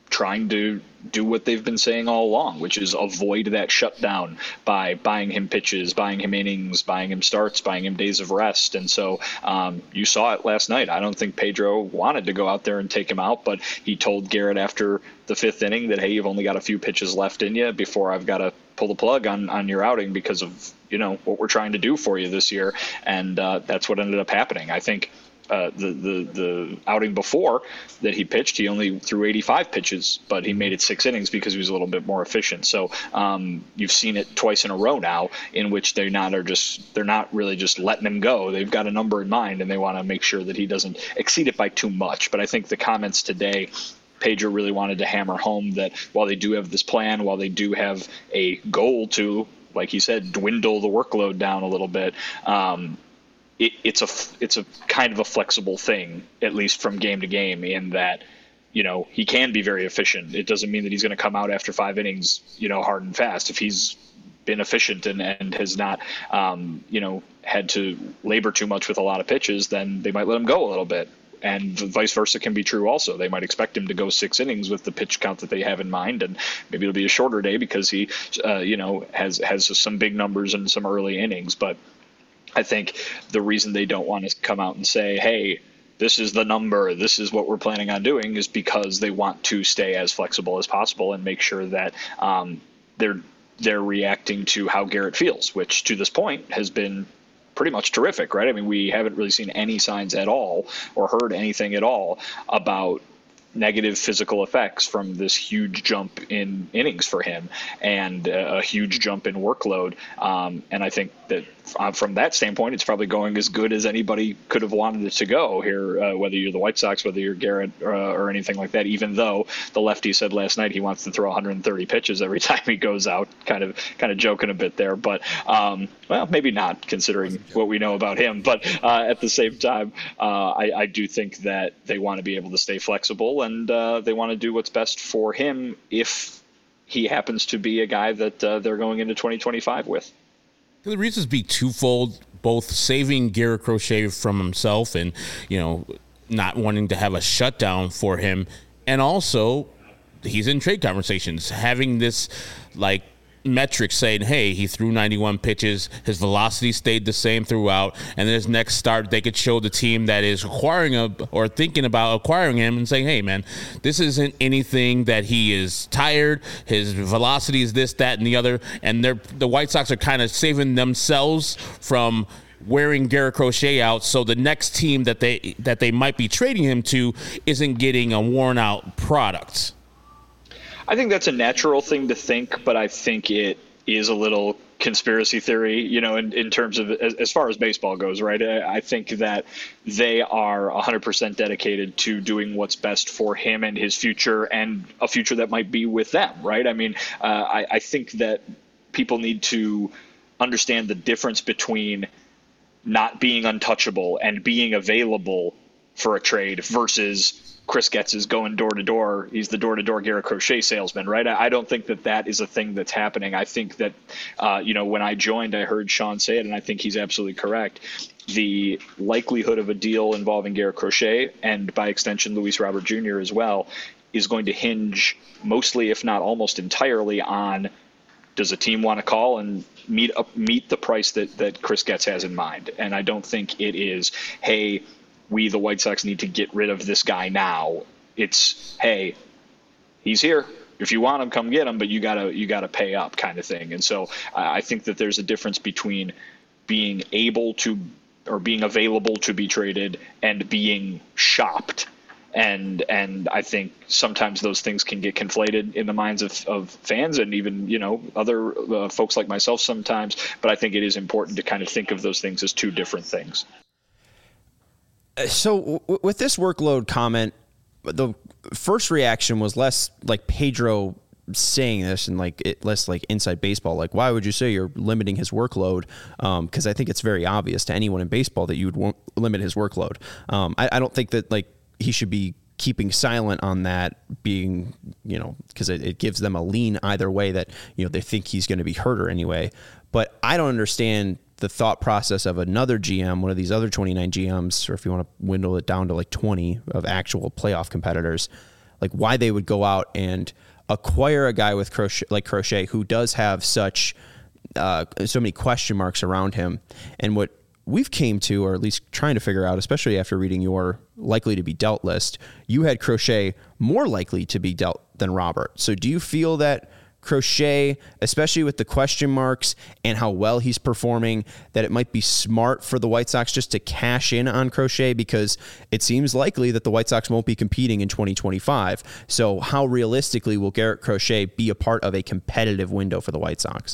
trying to do what they've been saying all along, which is avoid that shutdown by buying him pitches, buying him innings, buying him starts, buying him days of rest. And so um, you saw it last night. I don't think Pedro wanted to go out there and take him out, but he told Garrett after the fifth inning that, hey, you've only got a few pitches left in you before I've got to pull the plug on, on your outing because of, you know, what we're trying to do for you this year. And uh, that's what ended up happening. I think Uh, the, the the outing before that he pitched, he only threw eighty-five pitches, but he made it six innings because he was a little bit more efficient. So um, you've seen it twice in a row now, in which they not are just they're not really just letting him go. They've got a number in mind, and they want to make sure that he doesn't exceed it by too much. But I think the comments today, Pedro really wanted to hammer home that while they do have this plan, while they do have a goal to, like he said, dwindle the workload down a little bit. Um, It, it's a it's a kind of a flexible thing, at least from game to game, in that, you know, he can be very efficient. It doesn't mean that he's going to come out after five innings, you know, hard and fast. If he's been efficient and, and has not, um, you know, had to labor too much with a lot of pitches, then they might let him go a little bit. And vice versa can be true also. They might expect him to go six innings with the pitch count that they have in mind, and maybe it'll be a shorter day because he, uh, you know, has has some big numbers in some early innings, but I think the reason they don't want to come out and say, hey, this is the number, this is what we're planning on doing, is because they want to stay as flexible as possible and make sure that um, they're they're reacting to how Garrett feels, which to this point has been pretty much terrific, right? I mean, we haven't really seen any signs at all or heard anything at all about negative physical effects from this huge jump in innings for him and a huge jump in workload. Um, and I think that uh, from that standpoint, it's probably going as good as anybody could have wanted it to go here, uh, whether you're the White Sox, whether you're Garrett uh, or anything like that, even though the lefty said last night he wants to throw one hundred thirty pitches every time he goes out, kind of kind of joking a bit there. But, um, well, maybe not considering what we know about him. But uh, at the same time, uh, I, I do think that they want to be able to stay flexible, and uh, they want to do what's best for him if he happens to be a guy that uh, they're going into twenty twenty-five with. The reasons be twofold, both saving Garrett Crochet from himself and, you know, not wanting to have a shutdown for him. And also, he's in trade conversations, having this, like, metric saying, hey, he threw ninety-one pitches, his velocity stayed the same throughout, and then his next start, they could show the team that is acquiring a, or thinking about acquiring him and saying, hey, man, this isn't anything that he is tired, his velocity is this, that, and the other, and they're, the White Sox are kind of saving themselves from wearing Garrett Crochet out, so the next team that they that they might be trading him to isn't getting a worn-out product. I think that's a natural thing to think, but I think it is a little conspiracy theory, you know, in, in terms of as, as far as baseball goes, right? I, I think that they are one hundred percent dedicated to doing what's best for him and his future and a future that might be with them, right? I mean, uh, I, I think that people need to understand the difference between not being untouchable and being available for a trade versus Chris Getz is going door to door. He's the door to door Garrett Crochet salesman, right? I don't think that that is a thing that's happening. I think that, uh, you know, when I joined, I heard Sean say it, and I think he's absolutely correct. The likelihood of a deal involving Garrett Crochet and by extension Luis Robert Junior as well is going to hinge mostly, if not almost entirely, on does a team want to call and meet up, meet the price that, that Chris Getz has in mind? And I don't think it is, hey, we, the White Sox, need to get rid of this guy now. It's, hey, he's here. If you want him, come get him, but you gotta you gotta pay up, kind of thing. And so I think that there's a difference between being able to or being available to be traded and being shopped. And and I think sometimes those things can get conflated in the minds of, of fans and even, you know, other uh, folks like myself sometimes. But I think it is important to kind of think of those things as two different things. So w- with this workload comment, the first reaction was less like Pedro saying this and like it less like inside baseball. Like, why would you say you're limiting his workload? Um, because I think it's very obvious to anyone in baseball that you would won't limit his workload. Um, I, I don't think that like he should be keeping silent on that, being, you know, because it, it gives them a lean either way that, you know, they think he's going to be hurt or anyway. But I don't understand the thought process of another G M, one of these other twenty-nine G Ms, or if you want to dwindle it down to like twenty of actual playoff competitors, like why they would go out and acquire a guy with Crochet, like Crochet, who does have such uh, so many question marks around him. And what we've came to, or at least trying to figure out, especially after reading your likely to be dealt list, you had Crochet more likely to be dealt than Robert. So do you feel that Crochet, especially with the question marks and how well he's performing, that it might be smart for the White Sox just to cash in on Crochet, because it seems likely that the White Sox won't be competing in twenty twenty-five. So how realistically will Garrett Crochet be a part of a competitive window for the White Sox?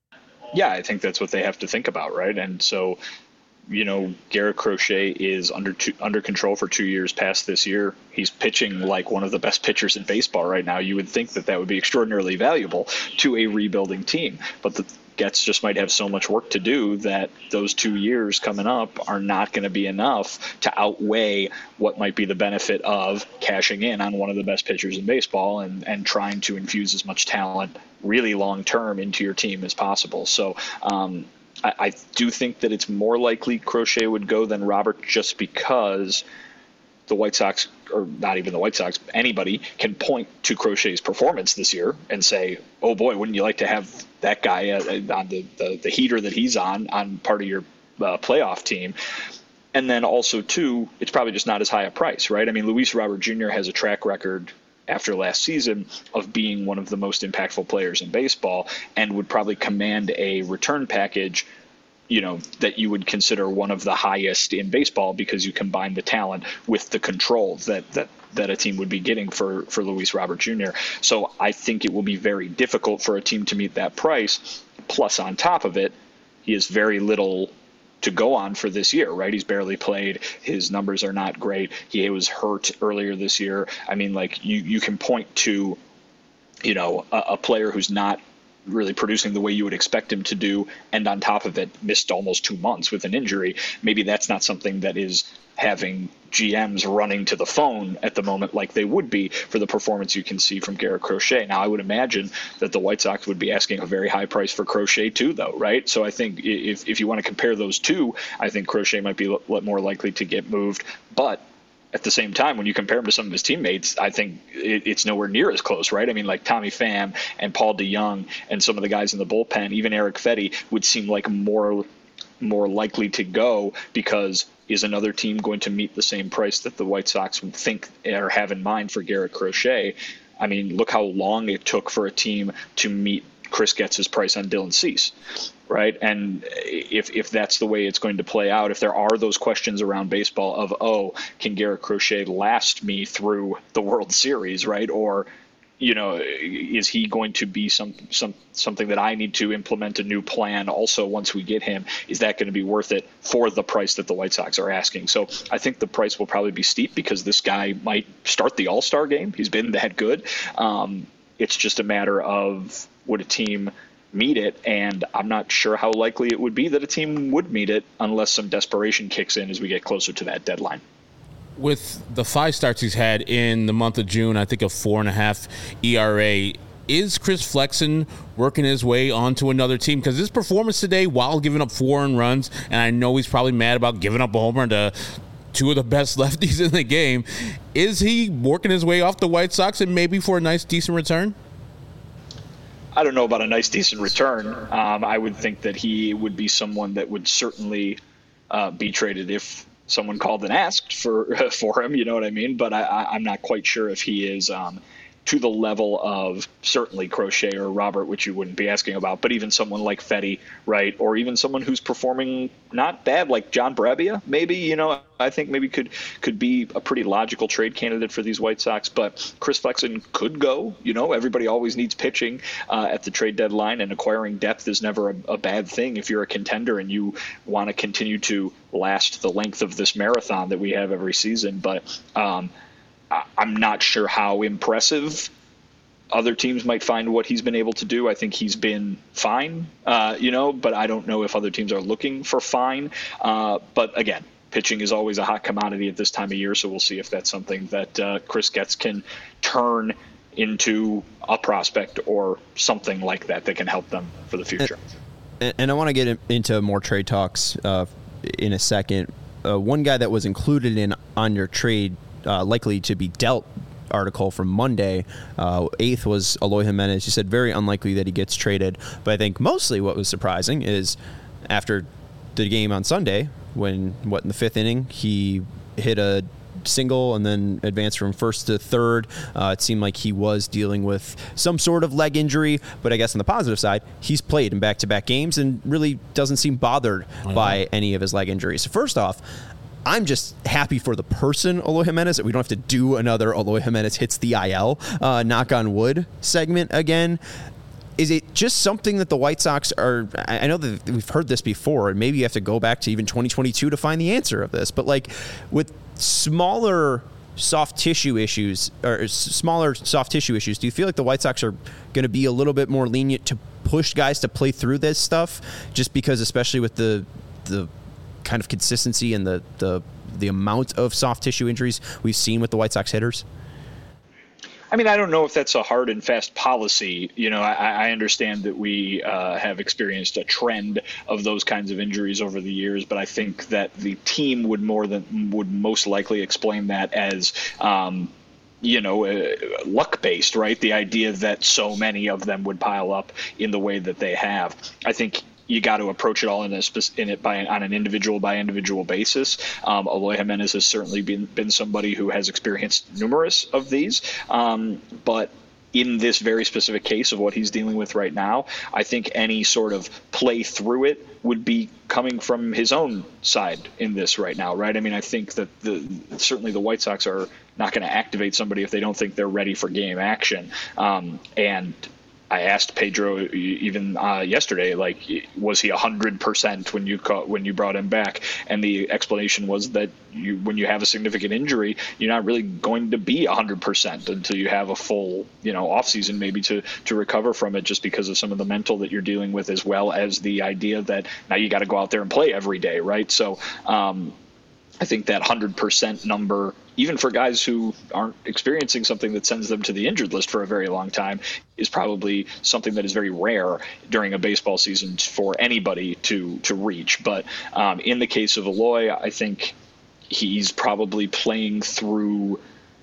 Yeah, I think that's what they have to think about, right? And so, you know, Garrett Crochet is under two, under control for two years past this year. He's pitching like one of the best pitchers in baseball right now. You would think that that would be extraordinarily valuable to a rebuilding team, but the Gets just might have so much work to do that those two years coming up are not going to be enough to outweigh what might be the benefit of cashing in on one of the best pitchers in baseball and, and trying to infuse as much talent really long term into your team as possible. So, um, I, I do think that it's more likely Crochet would go than Robert, just because the White Sox, or not even the White Sox, anybody can point to Crochet's performance this year and say, oh boy, wouldn't you like to have that guy uh, on the, the, the heater that he's on, on part of your uh, playoff team. And then also, too, it's probably just not as high a price, right? I mean, Luis Robert Junior has a track record after last season of being one of the most impactful players in baseball, and would probably command a return package, you know, that you would consider one of the highest in baseball, because you combine the talent with the control that that that a team would be getting for for Luis Robert Junior So I think it will be very difficult for a team to meet that price. Plus, on top of it, he has very little to go on for this year, right? He's barely played. His numbers are not great. He was hurt earlier this year. I mean, like, you, you can point to, you know, a, a player who's not really producing the way you would expect him to do, and on top of it, missed almost two months with an injury. Maybe that's not something that is having G Ms running to the phone at the moment like they would be for the performance you can see from Garrett Crochet. Now, I would imagine that the White Sox would be asking a very high price for Crochet too, though, right? So I think if if you want to compare those two, I think Crochet might be more likely to get moved. But at the same time, when you compare him to some of his teammates, I think it, it's nowhere near as close, right? I mean, like Tommy Pham and Paul DeJong and some of the guys in the bullpen, even Eric Fetty, would seem like more more likely to go, because is another team going to meet the same price that the White Sox would think or have in mind for Garrett Crochet? I mean, look how long it took for a team to meet Chris Getz's price on Dylan Cease, right? And if if that's the way it's going to play out, if there are those questions around baseball of, oh, can Garrett Crochet last me through the World Series, right? Or, you know, is he going to be some some something that I need to implement a new plan also once we get him? Is that going to be worth it for the price that the White Sox are asking? So I think the price will probably be steep, because this guy might start the All-Star game. He's been that good. Um, it's just a matter of, would a team meet it? And I'm not sure how likely it would be that a team would meet it unless some desperation kicks in as we get closer to that deadline. With the five starts he's had in the month of June, I think a four and a half E R A, is Chris Flexen working his way onto another team? Because his performance today, while giving up four earned runs, and I know he's probably mad about giving up a home run to two of the best lefties in the game, is he working his way off the White Sox and maybe for a nice, decent return? I don't know about a nice, decent return. Um, I would think that he would be someone that would certainly uh, be traded if someone called and asked for for him, you know what I mean? But I, I, I'm not quite sure if he is um, to the level of certainly Crochet or Robert, which you wouldn't be asking about, but even someone like Fetty, right? Or even someone who's performing not bad, like John Brabia, maybe, you know, I think maybe could could be a pretty logical trade candidate for these White Sox. But Chris Flexen could go. You know, everybody always needs pitching uh, at the trade deadline, and acquiring depth is never a, a bad thing if you're a contender and you want to continue to last the length of this marathon that we have every season. But um, I, I'm not sure how impressive other teams might find what he's been able to do. I think he's been fine, uh, you know, but I don't know if other teams are looking for fine. Uh, but again, pitching is always a hot commodity at this time of year, so we'll see if that's something that uh, Chris Getz can turn into a prospect or something like that that can help them for the future. And, and I want to get into more trade talks uh, in a second. Uh, one guy that was included in on your trade, uh, likely to be dealt article from Monday. Uh, eighth was Eloy Jimenez. You said very unlikely that he gets traded. But I think mostly what was surprising is after the game on Sunday, when, what, in the fifth inning, he hit a single and then advanced from first to third. Uh, it seemed like he was dealing with some sort of leg injury, but I guess on the positive side, he's played in back-to-back games and really doesn't seem bothered by any of his leg injuries. So first off, I'm just happy for the person, Eloy Jimenez, that we don't have to do another Eloy Jimenez hits the I L, uh, knock on wood segment again. Is it just something that the White Sox are, I know that we've heard this before, and maybe you have to go back to even twenty twenty-two to find the answer of this, but like with smaller soft tissue issues, or smaller soft tissue issues, do you feel like the White Sox are going to be a little bit more lenient to push guys to play through this stuff, just because, especially with the the kind of consistency and the the the amount of soft tissue injuries we've seen with the White Sox hitters? I mean, I don't know if that's a hard and fast policy. You know, I, I understand that we uh, have experienced a trend of those kinds of injuries over the years, but I think that the team would more than would most likely explain that as, um, you know, uh, luck-based, right? The idea that so many of them would pile up in the way that they have. I think you got to approach it all in, a, in it by on an individual by individual basis. Um, Eloy Jimenez has certainly been been somebody who has experienced numerous of these, um, but in this very specific case of what he's dealing with right now, I think any sort of play through it would be coming from his own side in this right now, right? I mean, I think that the certainly the White Sox are not going to activate somebody if they don't think they're ready for game action, um, and I asked Pedro even uh, yesterday, like, was he one hundred percent when you caught, when you brought him back? And the explanation was that you, when you have a significant injury, you're not really going to be one hundred percent until you have a full, you know, off season maybe to to recover from it, just because of some of the mental that you're dealing with, as well as the idea that now you got to go out there and play every day, right? So um, I think that one hundred percent number, even for guys who aren't experiencing something that sends them to the injured list for a very long time, is probably something that is very rare during a baseball season for anybody to to reach. But um, in the case of Eloy, I think he's probably playing through,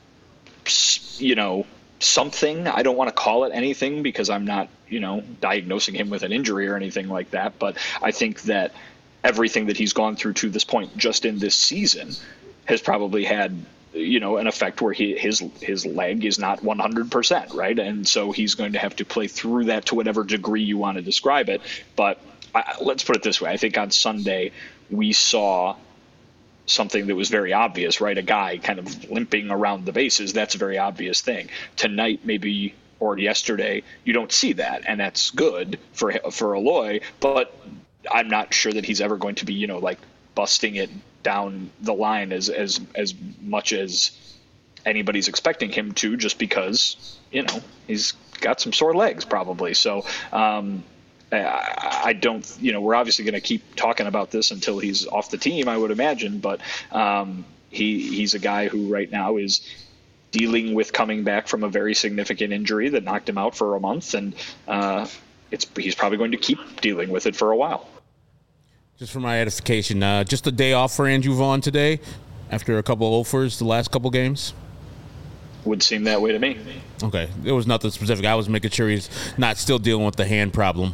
you know, something. I don't want to call it anything because I'm not, you know, diagnosing him with an injury or anything like that. But I think that everything that he's gone through to this point just in this season has probably had, you know, an effect where he, his his leg is not one hundred percent, right? And so he's going to have to play through that to whatever degree you want to describe it. But I, let's put it this way. I think on Sunday we saw something that was very obvious, right? A guy kind of limping around the bases. That's a very obvious thing. Tonight, maybe, or yesterday, you don't see that, and that's good for for Eloy, but I'm not sure that he's ever going to be, you know, like busting it down the line as as as much as anybody's expecting him to, just because, you know, he's got some sore legs probably. So um, I, I don't, you know, we're obviously going to keep talking about this until he's off the team, I would imagine. But um, he he's a guy who right now is dealing with coming back from a very significant injury that knocked him out for a month, and uh, it's he's probably going to keep dealing with it for a while. Just for my edification, uh, just a day off for Andrew Vaughn today after a couple offers the last couple games? Would seem that way to me. Okay. There was nothing specific. I was making sure he's not still dealing with the hand problem.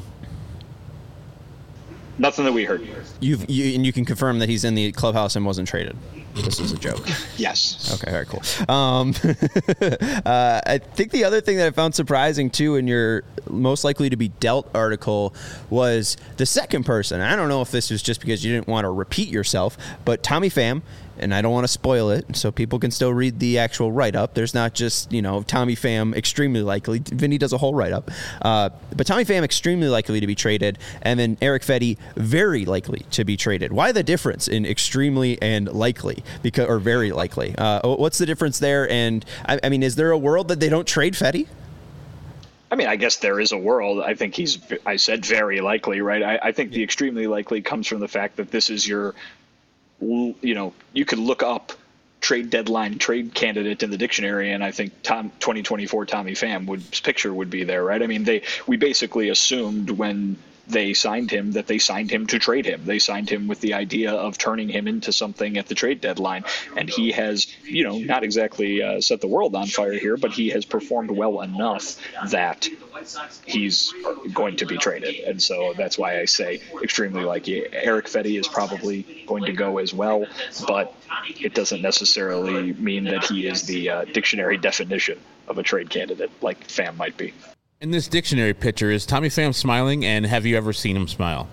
Nothing that we heard. You've, you and you can confirm that he's in the clubhouse and wasn't traded. This is a joke. Yes. Okay, all right, cool. Um, uh, I think the other thing that I found surprising, too, in your most likely to be dealt article was the second person. I don't know if this was just because you didn't want to repeat yourself, but Tommy Pham, and I don't want to spoil it, so people can still read the actual write-up. There's not just, you know, Tommy Pham extremely likely. Vinny does a whole write-up. Uh, but Tommy Pham extremely likely to be traded, and then Erick Fedde very likely to be traded. Why the difference in extremely and likely? Because, or very likely. Uh, what's the difference there? And, I, I mean, is there a world that they don't trade Fedde? I mean, I guess there is a world. I think he's, I said very likely, right? I, I think the extremely likely comes from the fact that this is your, you know, you could look up trade deadline trade candidate in the dictionary, and I think Tom twenty twenty-four Tommy Pham would picture would be there, right? I mean, they we basically assumed when they signed him that they signed him to trade him. They signed him with the idea of turning him into something at the trade deadline. And he has, you know, not exactly uh, set the world on fire here, but he has performed well enough that he's going to be traded. And so that's why I say extremely likely. Eric Fedde is probably going to go as well, but it doesn't necessarily mean that he is the uh, dictionary definition of a trade candidate like Pham might be. In this dictionary picture, is Tommy Pham smiling, and have you ever seen him smile?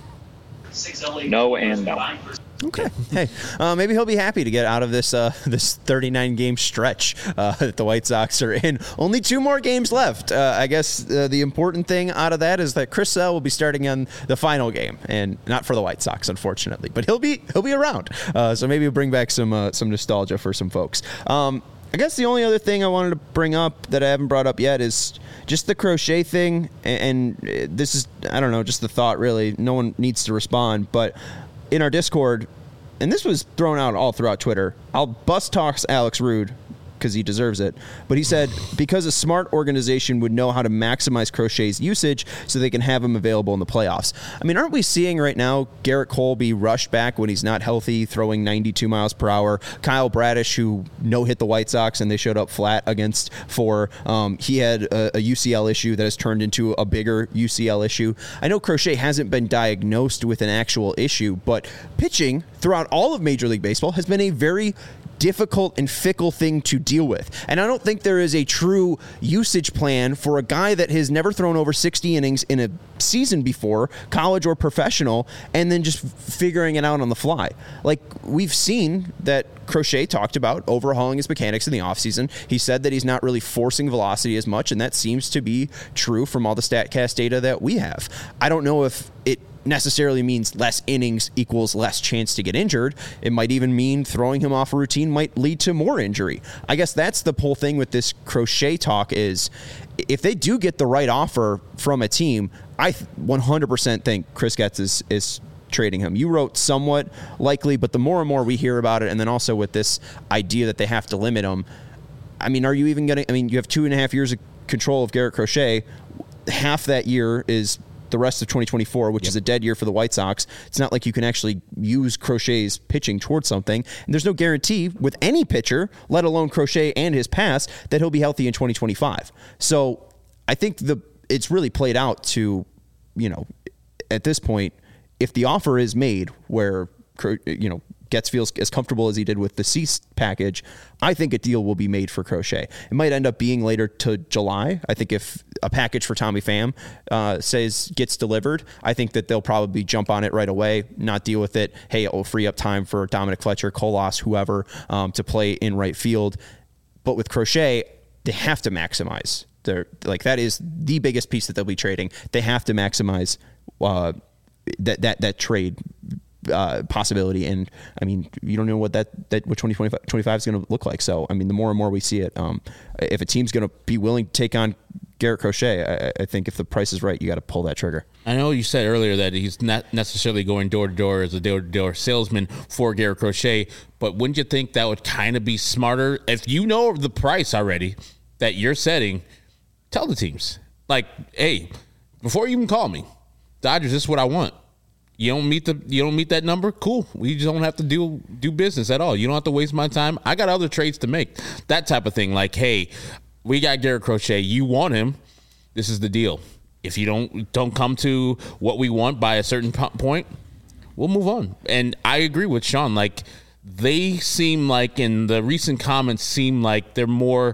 No and no. Okay. Hey, uh, maybe he'll be happy to get out of this uh, this thirty-nine game stretch uh, that the White Sox are in. Only two more games left. Uh, I guess uh, the important thing out of that is that Chris Sale will be starting on the final game, and not for the White Sox, unfortunately, but he'll be he'll be around. Uh, so maybe he'll bring back some uh, some nostalgia for some folks. Um, I guess the only other thing I wanted to bring up that I haven't brought up yet is just the Crochet thing. And, and this is, I don't know, just the thought, really. No one needs to respond. But in our Discord, and this was thrown out all throughout Twitter, I'll bust talks Alex Rude because he deserves it. But he said, because a smart organization would know how to maximize Crochet's usage so they can have him available in the playoffs. I mean, aren't we seeing right now Garrett Cole be rushed back when he's not healthy, throwing ninety-two miles per hour? Kyle Bradish, who no-hit the White Sox and they showed up flat against four. Um, he had a, a U C L issue that has turned into a bigger U C L issue. I know Crochet hasn't been diagnosed with an actual issue, but pitching throughout all of Major League Baseball has been a very difficult and fickle thing to deal with. And I don't think there is a true usage plan for a guy that has never thrown over sixty innings in a season before, college or professional, and then just figuring it out on the fly. Like, we've seen that Crochet talked about overhauling his mechanics in the offseason. He said that he's not really forcing velocity as much, and that seems to be true from all the StatCast data that we have. I don't know if it necessarily means less innings equals less chance to get injured. It might even mean throwing him off a routine might lead to more injury. I guess that's the whole thing with this Crochet talk is if they do get the right offer from a team, I one hundred percent think Chris Getz is, is trading him. You wrote somewhat likely, but the more and more we hear about it, and then also with this idea that they have to limit him, I mean, are you even going to, I mean, you have two and a half years of control of Garrett Crochet. Half that year is the rest of twenty twenty-four, which yep. is a dead year for the White Sox. It's not like you can actually use Crochet's pitching towards something. And there's no guarantee with any pitcher, let alone Crochet and his past, that he'll be healthy in twenty twenty-five. So I think the it's really played out to, you know, at this point, if the offer is made where, you know, Getz feels as comfortable as he did with the Cease package, I think a deal will be made for Crochet. It might end up being later to July. I think if a package for Tommy Pham uh, says gets delivered, I think that they'll probably jump on it right away, not deal with it. Hey, it will free up time for Dominic Fletcher, Colas, whoever, um, to play in right field. But with Crochet, they have to maximize their, like, that is the biggest piece that they'll be trading. They have to maximize uh, that that that trade Uh, possibility. And I mean, you don't know what that, that what twenty twenty-five is going to look like. So, I mean, the more and more we see it, um, if a team's going to be willing to take on Garrett Crochet, I, I think if the price is right, you got to pull that trigger. I know you said earlier that he's not necessarily going door to door as a door to door salesman for Garrett Crochet, but wouldn't you think that would kind of be smarter if you know the price already that you're setting? Tell the teams, like, hey, before you even call me, Dodgers, this is what I want. You don't meet the you don't meet that number? Cool. We just don't have to do do business at all. You don't have to waste my time. I got other trades to make. That type of thing. Like, hey, we got Garrett Crochet. You want him. This is the deal. If you don't don't come to what we want by a certain point, we'll move on. And I agree with Sean. Like, they seem like, in the recent comments, seem like they're more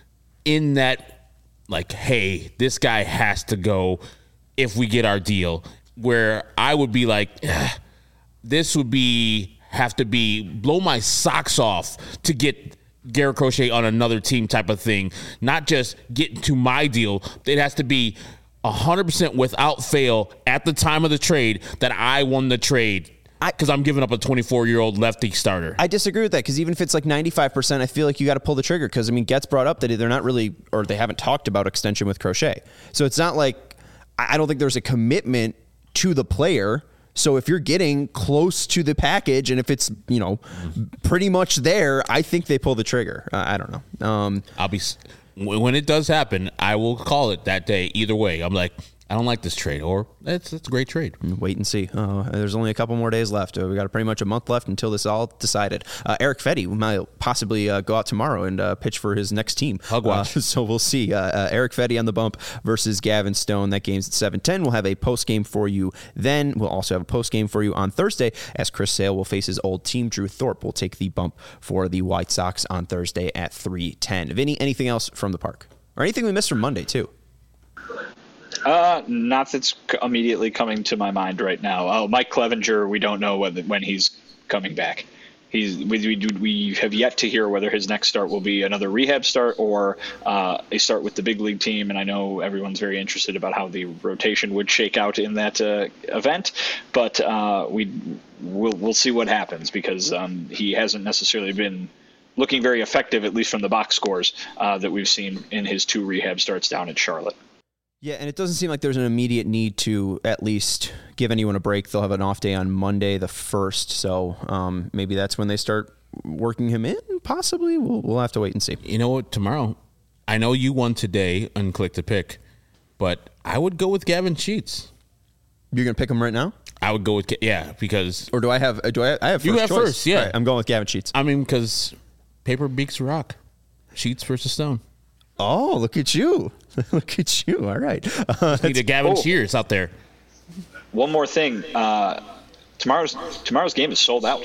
in that, like, hey, this guy has to go if we get our deal. Where I would be like, this would be have to be blow my socks off to get Garrett Crochet on another team type of thing. Not just get to my deal. It has to be one hundred percent without fail at the time of the trade that I won the trade. Because I'm giving up a twenty-four-year-old lefty starter. I disagree with that, because even if it's like ninety-five percent, I feel like you got to pull the trigger. Because, I mean, Getz brought up that they're not really, or they haven't talked about extension with Crochet. So it's not like, I don't think there's a commitment to the player. So if you're getting close to the package, and if it's, you know, pretty much there, I think they pull the trigger. Uh, I don't know. Um, I'll be when it does happen, I will call it that day. Either way, I'm like, I don't like this trade, or it's it's a great trade. Wait and see. Uh, there's only a couple more days left. Uh, we got pretty much a month left until this all decided. Uh, Eric Fedde might possibly uh, go out tomorrow and uh, pitch for his next team. Hug watch. Uh, so we'll see. Uh, uh, Eric Fedde on the bump versus Gavin Stone. That game's at seven ten. We'll have a post game for you then. We'll also have a post game for you on Thursday as Chris Sale will face his old team. Drew Thorpe will take the bump for the White Sox on Thursday at three ten. Vinny, anything else from the park? Or anything we missed from Monday, too? Uh, not that's immediately coming to my mind right now. Oh, Mike Clevenger, we don't know whether, when he's coming back. He's we, we, we have yet to hear whether his next start will be another rehab start or uh, a start with the big league team. And I know everyone's very interested about how the rotation would shake out in that uh, event, but uh, we we'll we'll see what happens because um, he hasn't necessarily been looking very effective, at least from the box scores uh, that we've seen in his two rehab starts down in Charlotte. Yeah, and it doesn't seem like there's an immediate need to at least give anyone a break. They'll have an off day on Monday the first, so um, maybe that's when they start working him in, possibly. We'll, we'll have to wait and see. You know what, tomorrow, I know you won today on Click to Pick, but I would go with Gavin Sheets. You're going to pick him right now? I would go with, yeah, because... Or do I have, do I, I have first You have choice. first, yeah. Right, I'm going with Gavin Sheets. I mean, because paper beats rock. Sheets versus Stone. Oh, look at you. Look at you. All right. Uh, Need a Gavin oh. Shears out there. One more thing. Uh, tomorrow's tomorrow's game is sold out.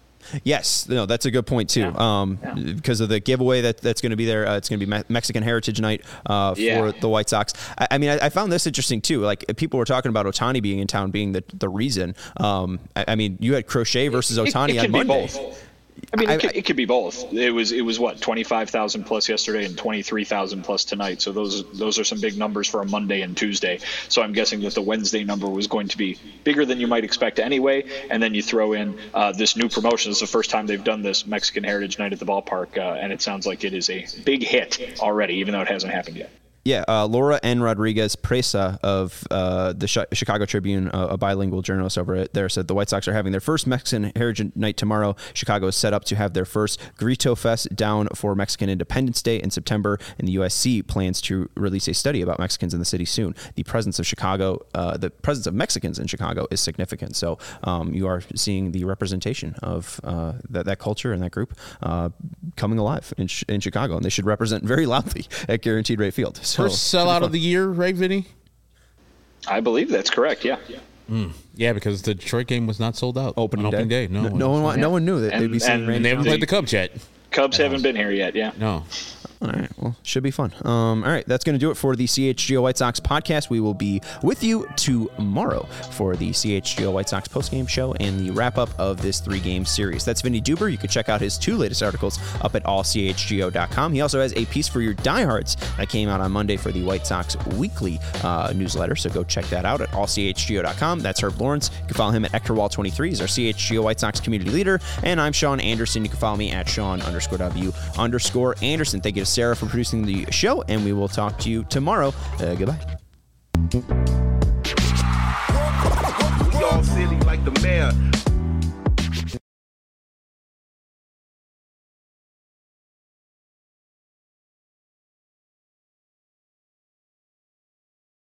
Yes, no, that's a good point too. Yeah. Um, Yeah. Because of the giveaway that, that's going to be there, uh, it's going to be Me- Mexican Heritage Night uh, for Yeah. the White Sox. I, I mean, I, I found this interesting too. Like people were talking about Ohtani being in town being the the reason. Um, I, I mean, you had Crochet versus Ohtani it, it on can Monday. Be both. I mean, I, it, could, I, it could be both. It was it was what twenty-five thousand plus yesterday and twenty-three thousand plus tonight. So those those are some big numbers for a Monday and Tuesday. So I'm guessing that the Wednesday number was going to be bigger than you might expect anyway. And then you throw in uh, this new promotion. This is the first time they've done this Mexican Heritage Night at the ballpark, uh, and it sounds like it is a big hit already, even though it hasn't happened yet. Yeah, uh, Laura N. Rodriguez Presa of uh, the Sh- Chicago Tribune, uh, a bilingual journalist over there, said the White Sox are having their first Mexican Heritage Night tomorrow. Chicago is set up to have their first Grito Fest down for Mexican Independence Day in September, and the U S C plans to release a study about Mexicans in the city soon. The presence of Chicago, uh, the presence of Mexicans in Chicago is significant. So um, you are seeing the representation of uh, that, that culture and that group uh, coming alive in, in Chicago, and they should represent very loudly at Guaranteed Rate Field. So, First sellout of the year, right, Vinny? I believe that's correct. Yeah. Mm. Yeah, because the Detroit game was not sold out Opening on opening day. day. No, No, no one, wa- no one knew that And- they'd be seeing and- Randy. And they haven't They- played the Cubs yet. Cubs haven't been here yet. Yeah. No. All right. Well, should be fun. Um, all right. That's going to do it for the C H G O White Sox podcast. We will be with you tomorrow for the C H G O White Sox postgame show and the wrap up of this three game series. That's Vinny Duber. You can check out his two latest articles up at all c h g o dot com. He also has a piece for your diehards that came out on Monday for the White Sox weekly uh, newsletter. So go check that out at all c h g o dot com. That's Herb Lawrence. You can follow him at Ector Wall twenty-three. He's our C H G O White Sox community leader. And I'm Sean Anderson. You can follow me at Sean underscore W underscore Anderson. Thank you to Sarah for producing the show, and we will talk to you tomorrow. Uh, goodbye. We all silly like the mayor.